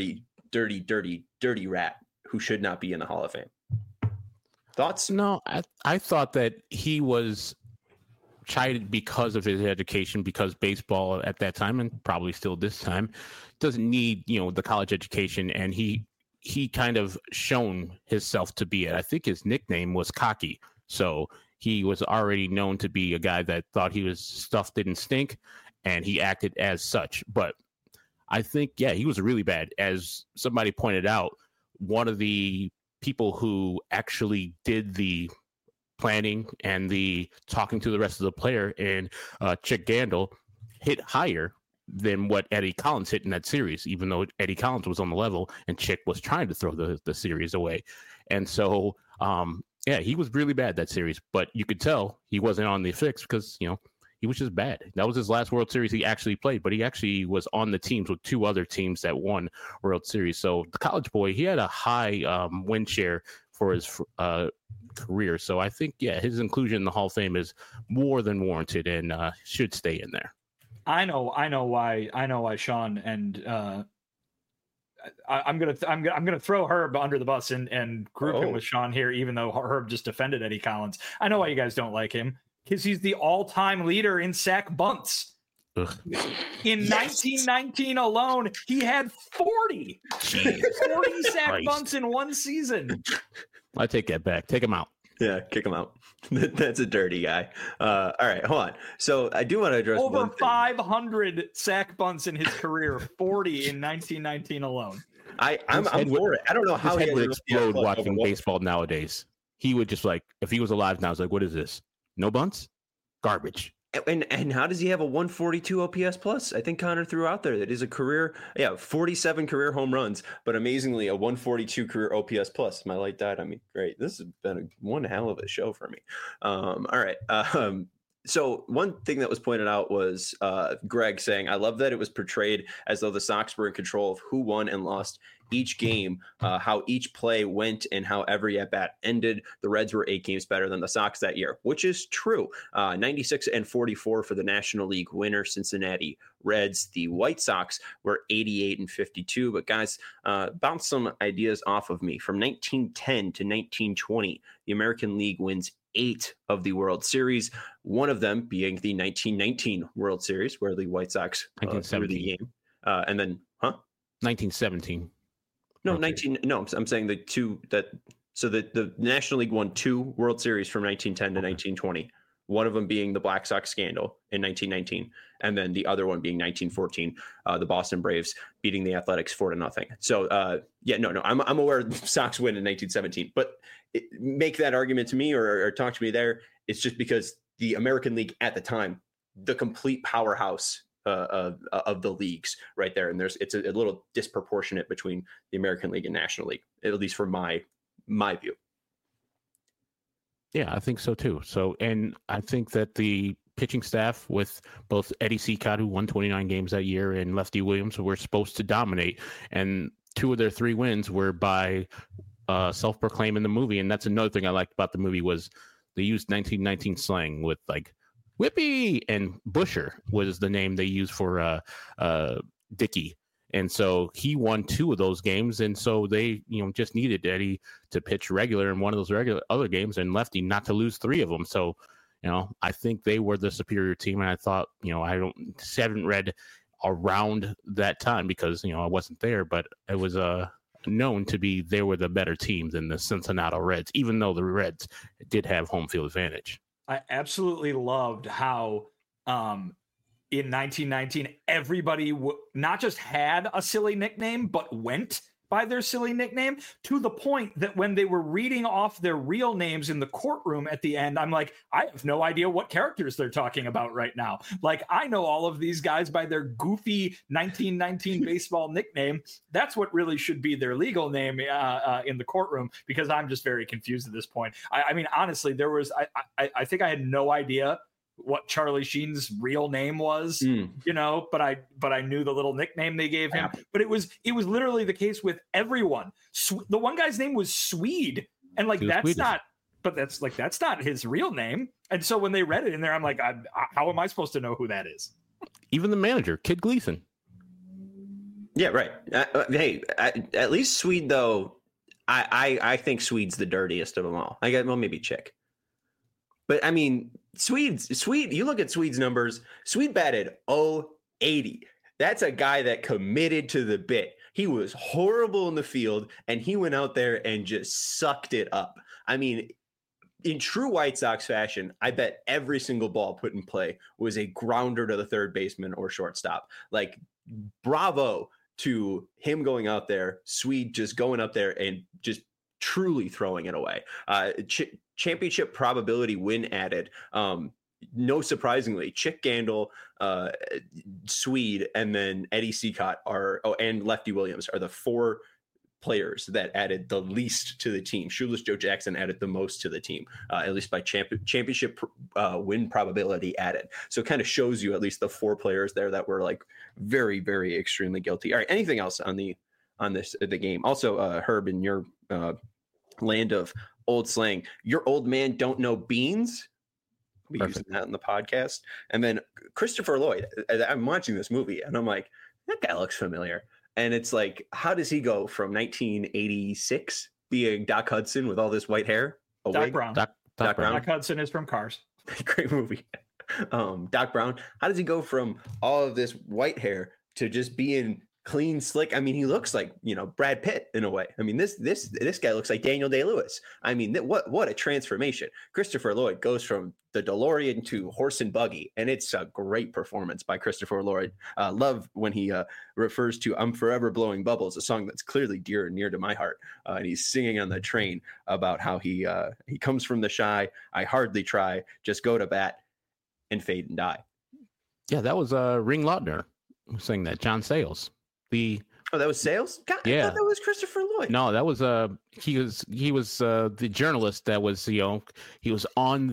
rat who should not be in the Hall of Fame. Thoughts? No, I thought that he was chided because of his education, because baseball at that time, and probably still this time, doesn't need, the college education, and he kind of shown himself to be it. I think his nickname was Cocky. So he was already known to be a guy that thought stuff didn't stink, and he acted as such. But I think, he was really bad. As somebody pointed out, one of the people who actually did the planning and the talking to the rest of the player, and Chick Gandil, hit higher than what Eddie Collins hit in that series, even though Eddie Collins was on the level and Chick was trying to throw the series away. And so, he was really bad that series, but you could tell he wasn't on the fix because, he was just bad. That was his last World Series he actually played, but he actually was on the teams with 2 other teams that won World Series. So the college boy, he had a high win share for his career. So I think, his inclusion in the Hall of Fame is more than warranted and should stay in there. I know why Sean and I'm gonna throw Herb under the bus and group him with Sean here, even though Herb just defended Eddie Collins. I know why you guys don't like him, because he's the all-time leader in sack bunts. Ugh. In 1919 alone, he had 40 sack bunts in one season. I take that back. Take him out. Yeah, kick him out. That's a dirty guy. All right, hold on. So I do want to address over one thing. 500 sack bunts in his career, 40 in 1919 alone. I'm for it. I don't know how his he head would explode watching baseball nowadays. He would just if he was alive now, it's like, what is this? No bunts? Garbage. And how does he have a 142 OPS plus? I think Connor threw out there that is a career, 47 career home runs, but amazingly a 142 career OPS plus. My light died on me. Great. This has been one hell of a show for me. All right. So one thing that was pointed out was Greg saying, I love that it was portrayed as though the Sox were in control of who won and lost each game, how each play went and how every at-bat ended. The Reds were 8 games better than the Sox that year, which is true. 96-44 for the National League winner Cincinnati Reds. The White Sox were 88-52. But guys, bounce some ideas off of me. From 1910 to 1920, the American League wins 8 of the World Series, one of them being the 1919 World Series, where the White Sox threw the game. And then, 1917. No, 19. No, I'm saying the two that. So the National League won 2 World Series from 1910 to 1920. One of them being the Black Sox scandal in 1919, and then the other one being 1914, the Boston Braves beating the Athletics 4-0. So, I'm aware the Sox win in 1917, but make that argument to me or talk to me there. It's just because the American League at the time, the complete powerhouse of the leagues right there, and it's a little disproportionate between the American League and National League, at least from my view. Yeah, I think so too. So, and I think that the pitching staff with both Eddie Cicotte, who won 29 games that year, and Lefty Williams were supposed to dominate, and 2 of their 3 wins were by self-proclaim in the movie. And that's another thing I liked about the movie was they used 1919 slang with like Whippy, and Busher was the name they used for Dickey. And so he won 2 of those games. And so they, just needed Eddie to pitch regular in one of those regular other games and Lefty not to lose 3 of them. So, I think they were the superior team. And I thought, I haven't read around that time because, I wasn't there, but it was known to be they were the better team than the Cincinnati Reds, even though the Reds did have home field advantage. I absolutely loved how in 1919, everybody not just had a silly nickname, but went by their silly nickname, to the point that when they were reading off their real names in the courtroom at the end, I'm like, I have no idea what characters they're talking about right now. Like, I know all of these guys by their goofy 1919 baseball nickname. That's what really should be their legal name in the courtroom, because I'm just very confused at this point. I mean, honestly, there was, I think I had no idea what Charlie Sheen's real name was, you know, but I knew the little nickname they gave him. But it was literally the case with everyone. The one guy's name was Swede, and like that's not his real name. And so when they read it in there, I'm like, how am I supposed to know who that is? Even the manager, Kid Gleason. Yeah, right. Hey, at least Swede though. I think Swede's the dirtiest of them all. Maybe Chick. But I mean, Swede, you look at Swede's numbers, Swede batted 080. That's a guy that committed to the bit. He was horrible in the field, and he went out there and just sucked it up. I mean, in true White Sox fashion, I bet every single ball put in play was a grounder to the third baseman or shortstop. Like, bravo to him going out there, Swede just going up there and just truly throwing it away. Championship probability win added. No surprisingly, Chick Gandil, Swede, and then Eddie Cicotte and Lefty Williams are the four players that added the least to the team. Shoeless Joe Jackson added the most to the team, at least by championship win probability added. So it kind of shows you at least the four players there that were like very, very extremely guilty. All right, anything else on the game? Also, Herb, in your land of old slang, your old man don't know beans. We using that in the podcast. And then Christopher Lloyd, I'm watching this movie and I'm like, that guy looks familiar. And it's like, how does he go from 1986 being Doc Hudson with all this white hair? Doc Brown. Doc Brown. Doc Hudson is from Cars. Great movie. Doc Brown. How does he go from all of this white hair to just being clean, slick? I mean, he looks like, Brad Pitt in a way. I mean, this guy looks like Daniel Day-Lewis. I mean, what a transformation. Christopher Lloyd goes from the DeLorean to horse and buggy, and it's a great performance by Christopher Lloyd. Love when he refers to "I'm Forever Blowing Bubbles," a song that's clearly dear and near to my heart. And he's singing on the train about how he comes from the shy. I hardly try, just go to bat and fade and die. Yeah, that was Ring Lautner who sang that. John Sayles. That was Sayles? God, yeah. I thought that was Christopher Lloyd. No, that was he was the journalist that was, he was on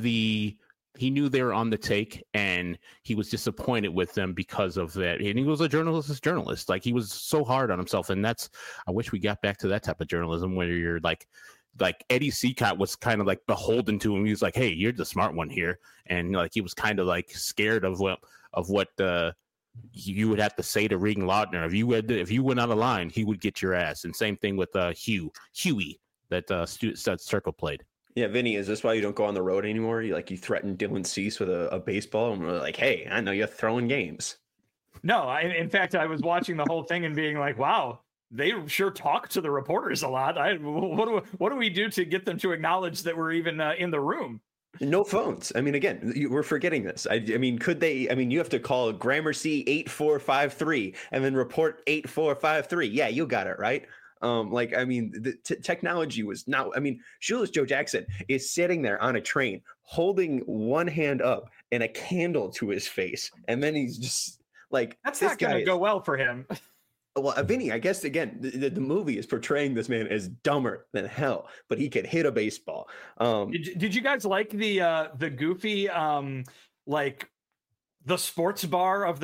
he knew they were on the take and he was disappointed with them because of that. And he was a journalist. Like, he was so hard on himself. And I wish we got back to that type of journalism where you're like Eddie Cicotte was kind of like beholden to him. He was like, hey, you're the smart one here. And like, he was kind of like scared of what you would have to say to Ring Lautner. If you went out of line, he would get your ass. And same thing with Huey that Circle played. Yeah, Vinny, is this why you don't go on the road anymore? You threatened Dylan Cease with a baseball, and we're like, hey, I know you're throwing games. No, in fact, I was watching the whole thing and being like, wow, they sure talk to the reporters a lot. What do we do to get them to acknowledge that we're even in the room? No phones. I mean, again, we're forgetting this. I mean, could they? I mean, you have to call Gramercy 8453 and then report 8453. Yeah, you got it right. The technology was not. I mean, Shoeless Joe Jackson is sitting there on a train, holding one hand up and a candle to his face, and then he's just like, "That's not going to go well for him." Well, Vinny, I guess again, the movie is portraying this man as dumber than hell, but he could hit a baseball. Did you guys like the goofy like the sports bar of the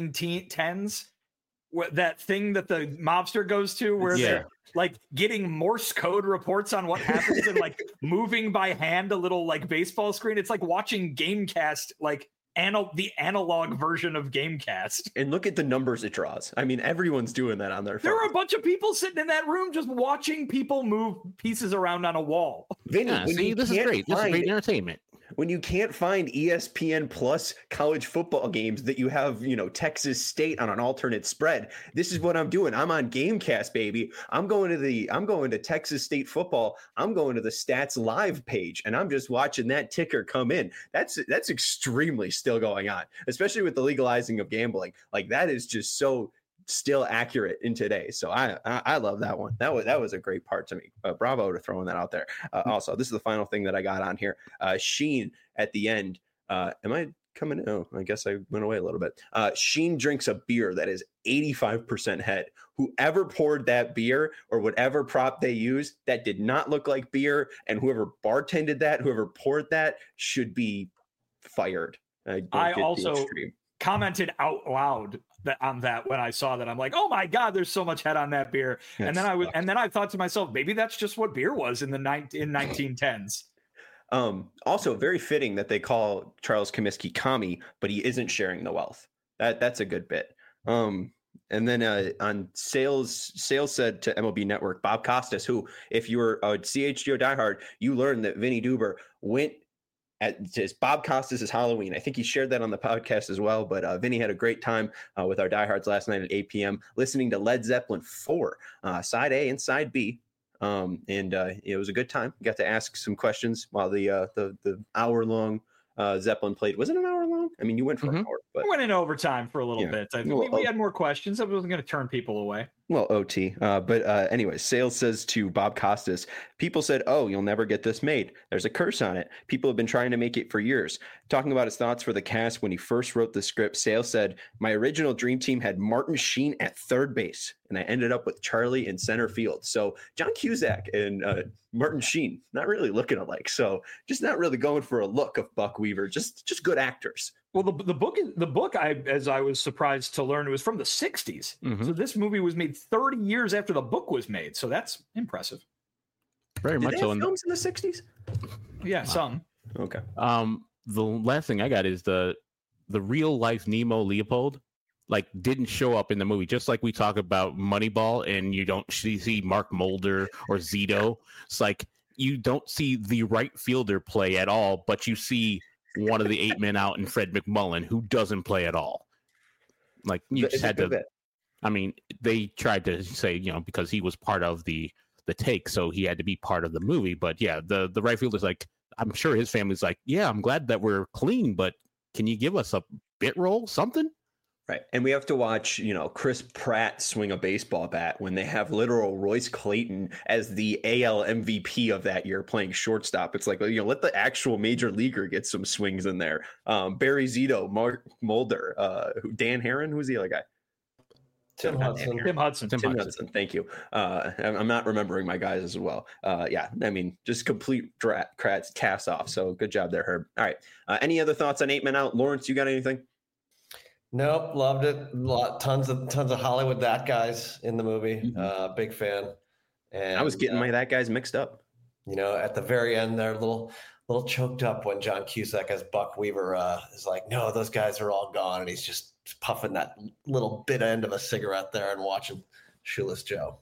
1910s? That thing that the mobster goes to where they're like getting Morse code reports on what happens and like moving by hand a little like baseball screen. It's like watching Gamecast, like the analog version of Gamecast. And look at the numbers it draws. I mean, everyone's doing that on their phone. There are a bunch of people sitting in that room just watching people move pieces around on a wall. Vinny, this is great. This is great entertainment. When you can't find ESPN Plus college football games that you have, Texas State on an alternate spread, this is what I'm doing. I'm on Gamecast, baby. I'm going to Texas State football. I'm going to the Stats Live page, and I'm just watching that ticker come in. That's extremely still going on, especially with the legalizing of gambling. Like, that is just so still accurate in today. So I love that one. That was a great part to me. Bravo to throwing that out there. Also, this is the final thing that I got on here. Sheen at the end. Am I coming? Oh, I guess I went away a little bit. Sheen drinks a beer that is 85% head. Whoever poured that beer or whatever prop they used, that did not look like beer. And whoever bartended that, whoever poured that, should be fired. I don't I get the also extreme. commented out loud on that when I saw that. I'm like, oh my God, there's so much head on that beer. That and then sucks. and then I thought to myself, maybe that's just what beer was in 1910s. Also very fitting that they call Charles Comiskey commie, but he isn't sharing the wealth. That's a good bit. And then on sales said to MLB Network, Bob Costas, who, if you were a CHGO diehard, you learned that Vinny Duber went at Bob Costas' Halloween. I think he shared that on the podcast as well. But Vinny had a great time with our diehards last night at 8 p.m. listening to Led Zeppelin 4, side A and side B. It was a good time. Got to ask some questions while the hour long Zeppelin played. Was it an hour long? I mean, you went for an hour, but we went in overtime for a little bit. I think we had more questions. I wasn't going to turn people away. Well, OT. Anyway, Sales says to Bob Costas, people said, oh, you'll never get this made. There's a curse on it. People have been trying to make it for years. Talking about his thoughts for the cast when he first wrote the script, Sales said, my original dream team had Martin Sheen at third base, and I ended up with Charlie in center field. So John Cusack and Martin Sheen, not really looking alike. So just not really going for a look of Buck Weaver, just good actors. Well, the book, as I was surprised to learn, it was from the 60s. Mhm. So this movie was made 30 years after the book was made. So that's impressive. Very Did much they so. have films in the 60s? Yeah, some. Okay. The last thing I got is the real life Nemo Leopold didn't show up in the movie, just like we talk about Moneyball and you don't see Mark Mulder or Zito. It's like you don't see the right fielder play at all, but you see one of the 8 men out in Fred McMullen who doesn't play at all. Like you just had to. I mean, they tried to say, because he was part of the take, so he had to be part of the movie. But yeah, the right fielder's like, I'm sure his family's like, yeah, I'm glad that we're clean, but can you give us a bit role, something? Right. And we have to watch, Chris Pratt swing a baseball bat when they have literal Royce Clayton as the AL MVP of that year playing shortstop. It's like, let the actual major leaguer get some swings in there. Barry Zito, Mark Mulder, Dan Herron, who's the other guy? Tim Hudson. Thank you. I'm not remembering my guys as well. Just complete cast off. So good job there, Herb. All right. Any other thoughts on 8 Men Out? Lawrence, you got anything? Nope, loved it. Tons of Hollywood that guys in the movie. Big fan. And I was getting my that guys mixed up. At the very end, they're a little choked up when John Cusack as Buck Weaver is like, no, those guys are all gone, and he's just puffing that little bit end of a cigarette there and watching Shoeless Joe.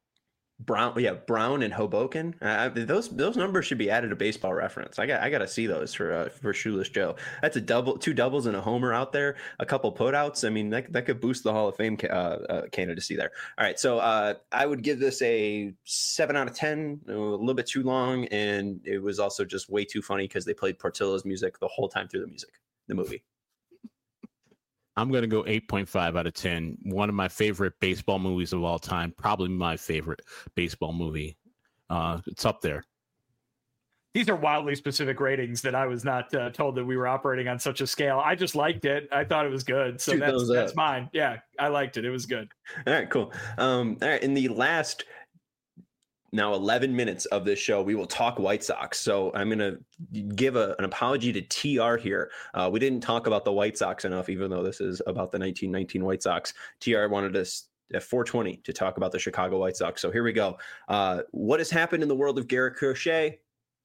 Brown and Hoboken. Those numbers should be added to Baseball Reference. I got to see those for Shoeless Joe. That's a double, 2 doubles and a homer out there, a couple putouts. I mean, that could boost the Hall of Fame candidacy there. All right, so I would give this a 7 out of 10. A little bit too long, and it was also just way too funny because they played Portillo's music the whole time through the movie. I'm going to go 8.5 out of 10. One of my favorite baseball movies of all time. Probably my favorite baseball movie. It's up there. These are wildly specific ratings that I was not told that we were operating on such a scale. I just liked it. I thought it was good. So that's mine. Yeah, I liked it. It was good. All right, cool. All right, in the last now 11 minutes of this show, we will talk White Sox. So I'm going to give an apology to TR here. We didn't talk about the White Sox enough, even though this is about the 1919 White Sox. TR wanted us at 420 to talk about the Chicago White Sox. So here we go. What has happened in the world of Garrett Crochet?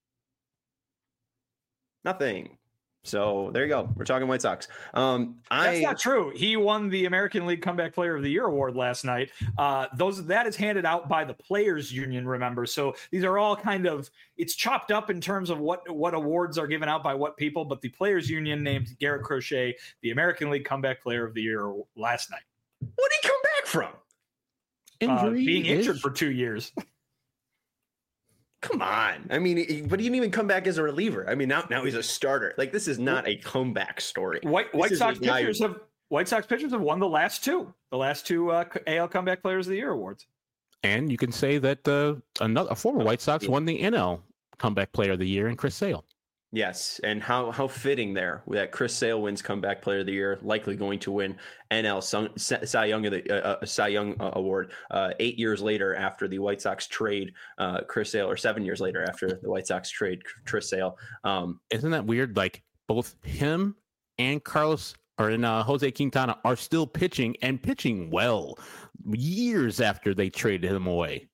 Nothing. So there you go. We're talking White Sox. That's not true. He won the American League Comeback Player of the Year award last night. That is handed out by the Players Union, remember. So these are all it's chopped up in terms of what awards are given out by what people, but the Players Union named Garrett Crochet the American League Comeback Player of the Year last night. What did he come back from? Being injured for 2 years. Come on. I mean, but he didn't even come back as a reliever. I mean, now he's a starter. Like, this is not a comeback story. White Sox pitchers have won the last two AL Comeback Players of the Year awards. And you can say that a former White Sox won the NL Comeback Player of the Year in Chris Sale. Yes, and how fitting there that Chris Sale wins Comeback Player of the Year, likely going to win NL Cy Young Award 8 years later after the White Sox trade Chris Sale, or 7 years later after the White Sox trade Chris Sale. Isn't that weird? Like both him and Jose Quintana are still pitching and pitching well years after they traded him away.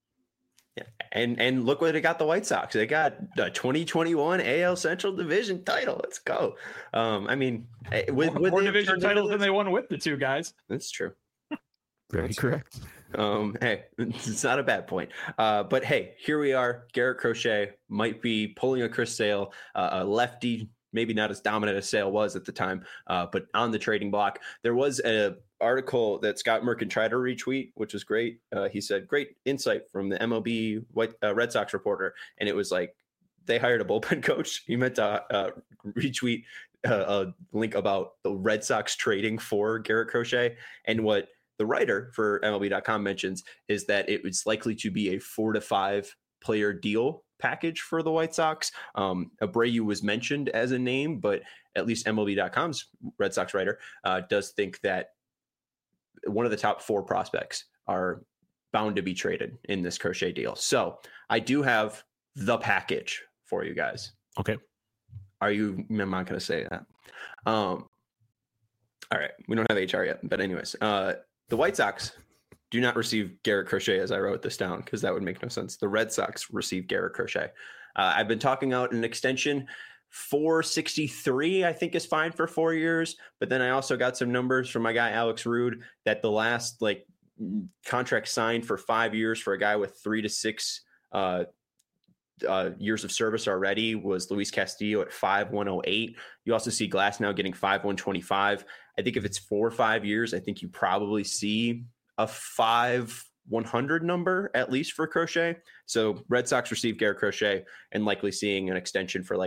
And look what it got the White Sox. They got the 2021 AL Central Division title. Let's go. I mean, with more division titles than they won with the two guys. That's true. Very correct. Hey, it's not a bad point. But hey, here we are. Garrett Crochet might be pulling a Chris Sale, a lefty, maybe not as dominant as Sale was at the time, but on the trading block. There was an article that Scott Merkin tried to retweet, which was great. He said, great insight from the MLB Red Sox reporter. And it was like, they hired a bullpen coach. He meant to retweet a link about the Red Sox trading for Garrett Crochet. And what the writer for MLB.com mentions is that it was likely to be a 4 to 5 player deal package for the White Sox. Abreu was mentioned as a name, but at least MLB.com's Red Sox writer does think that one of the top 4 prospects are bound to be traded in this Crochet deal. So I do have the package for you guys. Okay. I'm not going to say that. All right. We don't have HR yet, but anyways, the White Sox do not receive Garrett Crochet as I wrote this down because that would make no sense. The Red Sox receive Garrett Crochet. I've been talking out an extension. 463, I think, is fine for 4 years. But then I also got some numbers from my guy Alex Rude that the last contract signed for 5 years for a guy with 3 to 6 years of service already was Luis Castillo at 5,108. You also see Glasnow getting 5,125. I think if it's 4 or 5 years, I think you probably see a 5,100 number at least for Crochet. So Red Sox receive Garrett Crochet and likely seeing an extension for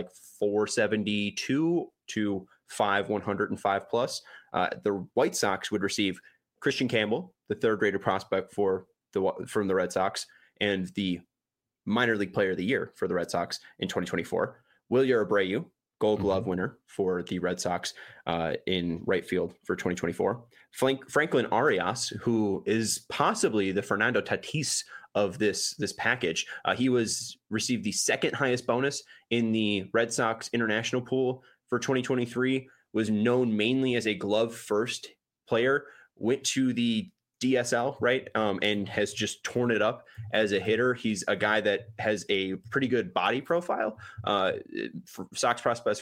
472 to 5,105 plus. The White Sox would receive Christian Campbell, the third-rated prospect from the Red Sox, and the minor league player of the year for the Red Sox in 2024. Wilyer Abreu, Gold Glove winner for the Red Sox in right field for 2024. Franklin Arias, who is possibly the Fernando Tatis of this package. He received the second highest bonus in the Red Sox international pool for 2023, was known mainly as a glove first player, went to the DSL, right? And has just torn it up as a hitter. He's a guy that has a pretty good body profile. Sox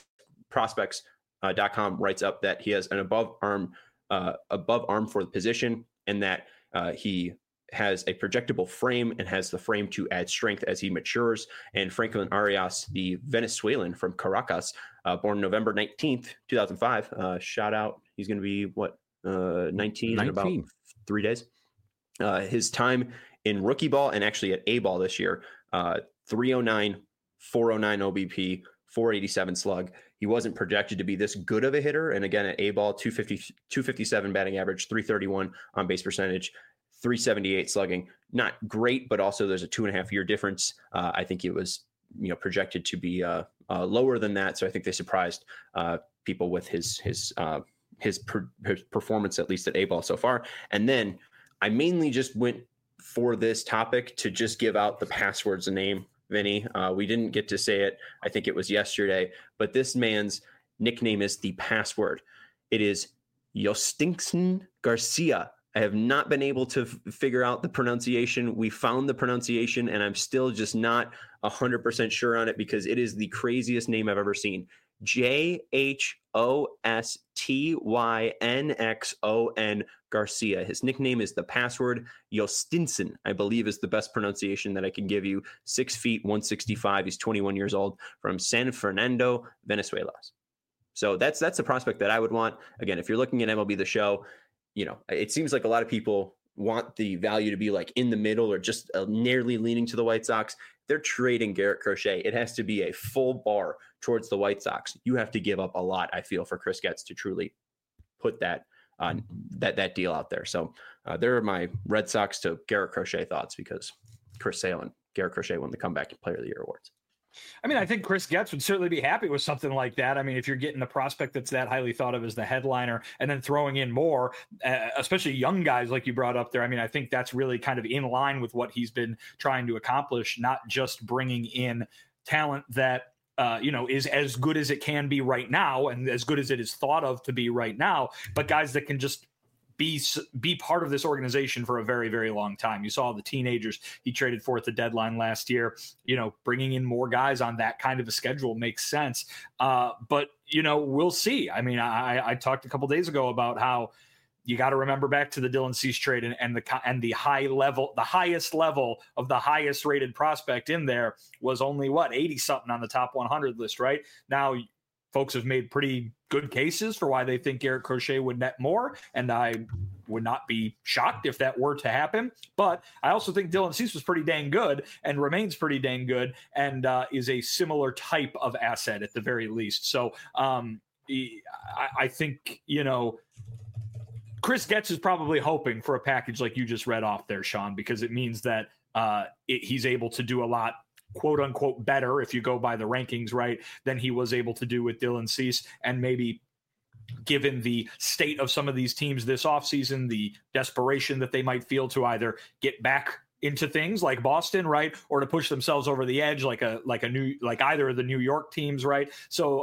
prospects.com writes up that he has an above arm for the position, and that he has a projectable frame and has the frame to add strength as he matures. And Franklin Arias, the Venezuelan from Caracas, born November 19th, 2005, shout out. He's going to be 19 in about 3 days. His time in rookie ball and actually at A ball this year, 309, 409 OBP, 487 slug. He wasn't projected to be this good of a hitter. And again, at A ball, 257 batting average, 331 on base percentage, 378 slugging. Not great, but also there's a 2.5 year difference. I think it was projected to be lower than that. So I think they surprised people with his performance, at least at A ball so far. And then I mainly just went for this topic to just give out the passwords and name, Vinny. We didn't get to say it. I think it was yesterday, but this man's nickname is the password. It is Yostinson Garcia. I have not been able to figure out the pronunciation. We found the pronunciation, and I'm still just not 100% sure on it because it is the craziest name I've ever seen. Jhostynxon Garcia. His nickname is the password. Yostinson, I believe, is the best pronunciation that I can give you. 6 feet, 165. He's 21 years old, from San Fernando, Venezuela. So that's a prospect that I would want. Again, if you're looking at MLB The Show, it seems like a lot of people want the value to be in the middle or just nearly leaning to the White Sox. They're trading Garrett Crochet. It has to be a full bar towards the White Sox. You have to give up a lot, I feel, for Chris Getz to truly put that deal out there. So there are my Red Sox to Garrett Crochet thoughts, because Chris Sale and Garrett Crochet won the Comeback Player of the Year awards. I mean, I think Chris Getz would certainly be happy with something like that. I mean, if you're getting a prospect that's that highly thought of as the headliner and then throwing in more, especially young guys like you brought up there, I mean, I think that's really kind of in line with what he's been trying to accomplish, not just bringing in talent that is as good as it can be right now and as good as it is thought of to be right now, but guys that can just be part of this organization for a very, very long time. You saw the teenagers he traded for at the deadline last year. Bringing in more guys on that kind of a schedule makes sense. But we'll see. I mean, I talked a couple days ago about how you got to remember back to the Dylan Cease trade and the highest level of the highest rated prospect in there was only 80 something on the top 100 list. Right now, folks have made pretty good cases for why they think Garrett Crochet would net more, and I would not be shocked if that were to happen. But I also think Dylan Cease was pretty dang good and remains pretty dang good and is a similar type of asset at the very least. So I think, Chris Getz is probably hoping for a package like you just read off there, Sean, because it means that he's able to do a lot, quote unquote, better, if you go by the rankings, right, than he was able to do with Dylan Cease. And maybe given the state of some of these teams this offseason, the desperation that they might feel to either get back into things like Boston, right, or to push themselves over the edge like either of the New York teams, right? So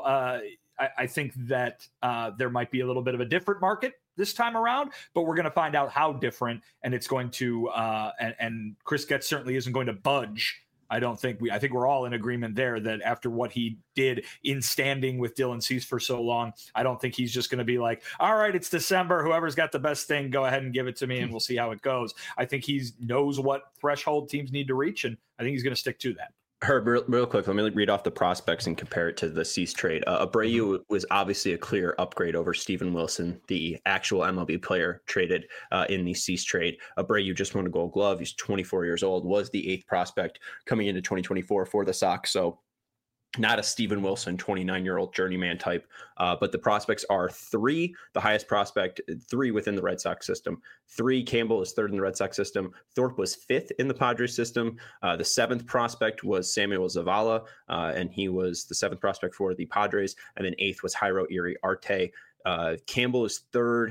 I think that there might be a little bit of a different market this time around, but we're going to find out how different, and it's going to and Chris Getz certainly isn't going to budge. I think we're all in agreement there that after what he did in standing with Dylan Cease for so long, I don't think he's just going to be like, all right, it's December, whoever's got the best thing, go ahead and give it to me and we'll see how it goes. I think he knows what threshold teams need to reach, and I think he's going to stick to that. Herb, real quick, let me read off the prospects and compare it to the Cease trade. Abreu was obviously a clear upgrade over Steven Wilson, the actual MLB player traded in the Cease trade. Abreu just won a Gold Glove. He's 24 years old, was the 8th prospect coming into 2024 for the Sox. So not a Steven Wilson, 29-year-old journeyman type, but the prospects are 3, the highest prospect, 3 within the Red Sox system. 3, Campbell is 3rd in the Red Sox system. Thorpe was 5th in the Padres system. The 7th prospect was Samuel Zavala, and he was the 7th prospect for the Padres. And then 8th was Jairo Iriarte. Campbell is 3rd.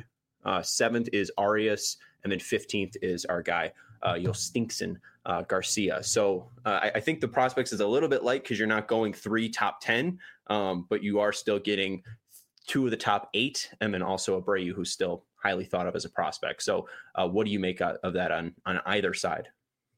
7th is Arias. And then 15th is our guy, Yolstinson Garcia. So I think the prospects is a little bit light because you're not going 3 top 10, but you are still getting 2 of the top 8, and then also Abreu, who's still highly thought of as a prospect. So what do you make of that on either side?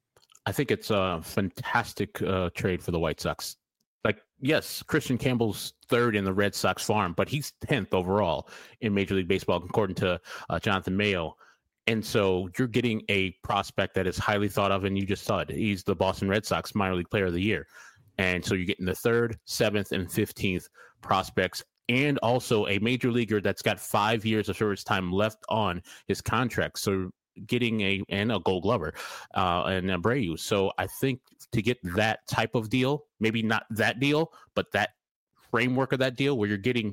I think it's a fantastic trade for the White Sox. Like, yes, Christian Campbell's 3rd in the Red Sox farm, but he's 10th overall in Major League Baseball, according to Jonathan Mayo. And so you're getting a prospect that is highly thought of, and you just saw it. He's the Boston Red Sox minor league player of the year. And so you're getting the 3rd, 7th, and 15th prospects, and also a major leaguer that's got 5 years of service time left on his contract. So getting a Gold Glover and Abreu. So I think to get that type of deal, maybe not that deal, but that framework of that deal where you're getting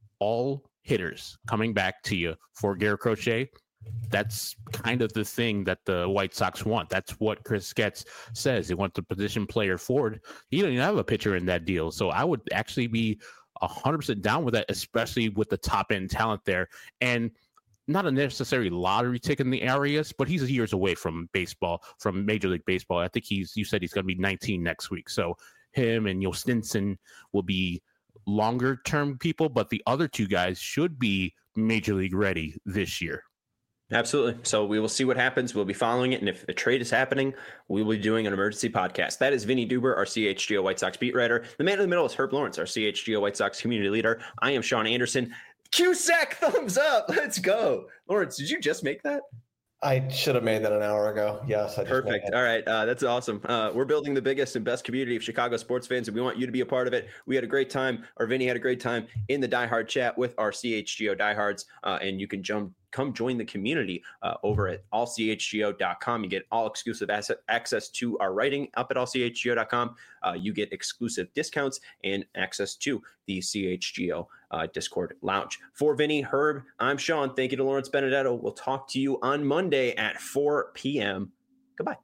all hitters coming back to you for Garrett Crochet, that's kind of the thing that the White Sox want. That's what Chris Getz says. They want the position player forward. He don't even have a pitcher in that deal. So I would actually be 100% down with that, especially with the top end talent there. And not a necessary lottery ticket in the Arias, but he's years away from baseball, from Major League Baseball. I think you said he's going to be 19 next week. So him and Yolstinson will be longer term people, but the other 2 guys should be Major League ready this year. Absolutely. So we will see what happens. We'll be following it. And if a trade is happening, we will be doing an emergency podcast. That is Vinny Duber, our CHGO White Sox beat writer. The man in the middle is Herb Lawrence, our CHGO White Sox community leader. I am Sean Anderson. Cusack, thumbs up. Let's go. Lawrence, did you just make that? I should have made that an hour ago. Yes. Perfect. All right. That's awesome. We're building the biggest and best community of Chicago sports fans, and we want you to be a part of it. We had a great time, or Vinny had a great time in the Die Hard chat with our CHGO diehards, and you can come join the community over at allchgo.com. You get all exclusive access to our writing up at allchgo.com. You get exclusive discounts and access to the CHGO Discord lounge. For Vinny, Herb, I'm Sean. Thank you to Lawrence Benedetto. We'll talk to you on Monday at 4 p.m. Goodbye.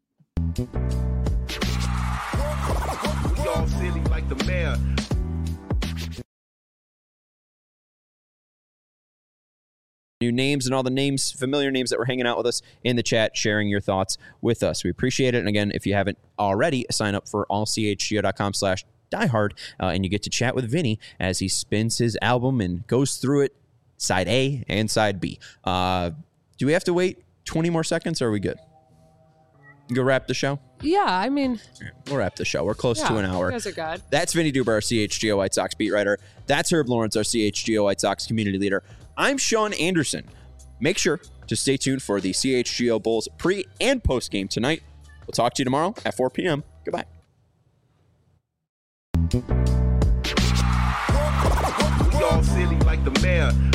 Y'all silly like the mayor. New names and all the familiar names that were hanging out with us in the chat, sharing your thoughts with us. We appreciate it. And again, if you haven't already, sign up for allchgo.com/. Die Hard, and you get to chat with Vinny as he spins his album and goes through it, side A and side B. Do we have to wait 20 more seconds, or are we good? Go wrap the show? Yeah, I mean... We'll wrap the show. We're close to an hour. You guys are good. That's Vinny Duber, our CHGO White Sox beat writer. That's Herb Lawrence, our CHGO White Sox community leader. I'm Sean Anderson. Make sure to stay tuned for the CHGO Bulls pre- and post-game tonight. We'll talk to you tomorrow at 4 p.m. Goodbye. We all silly like the mayor.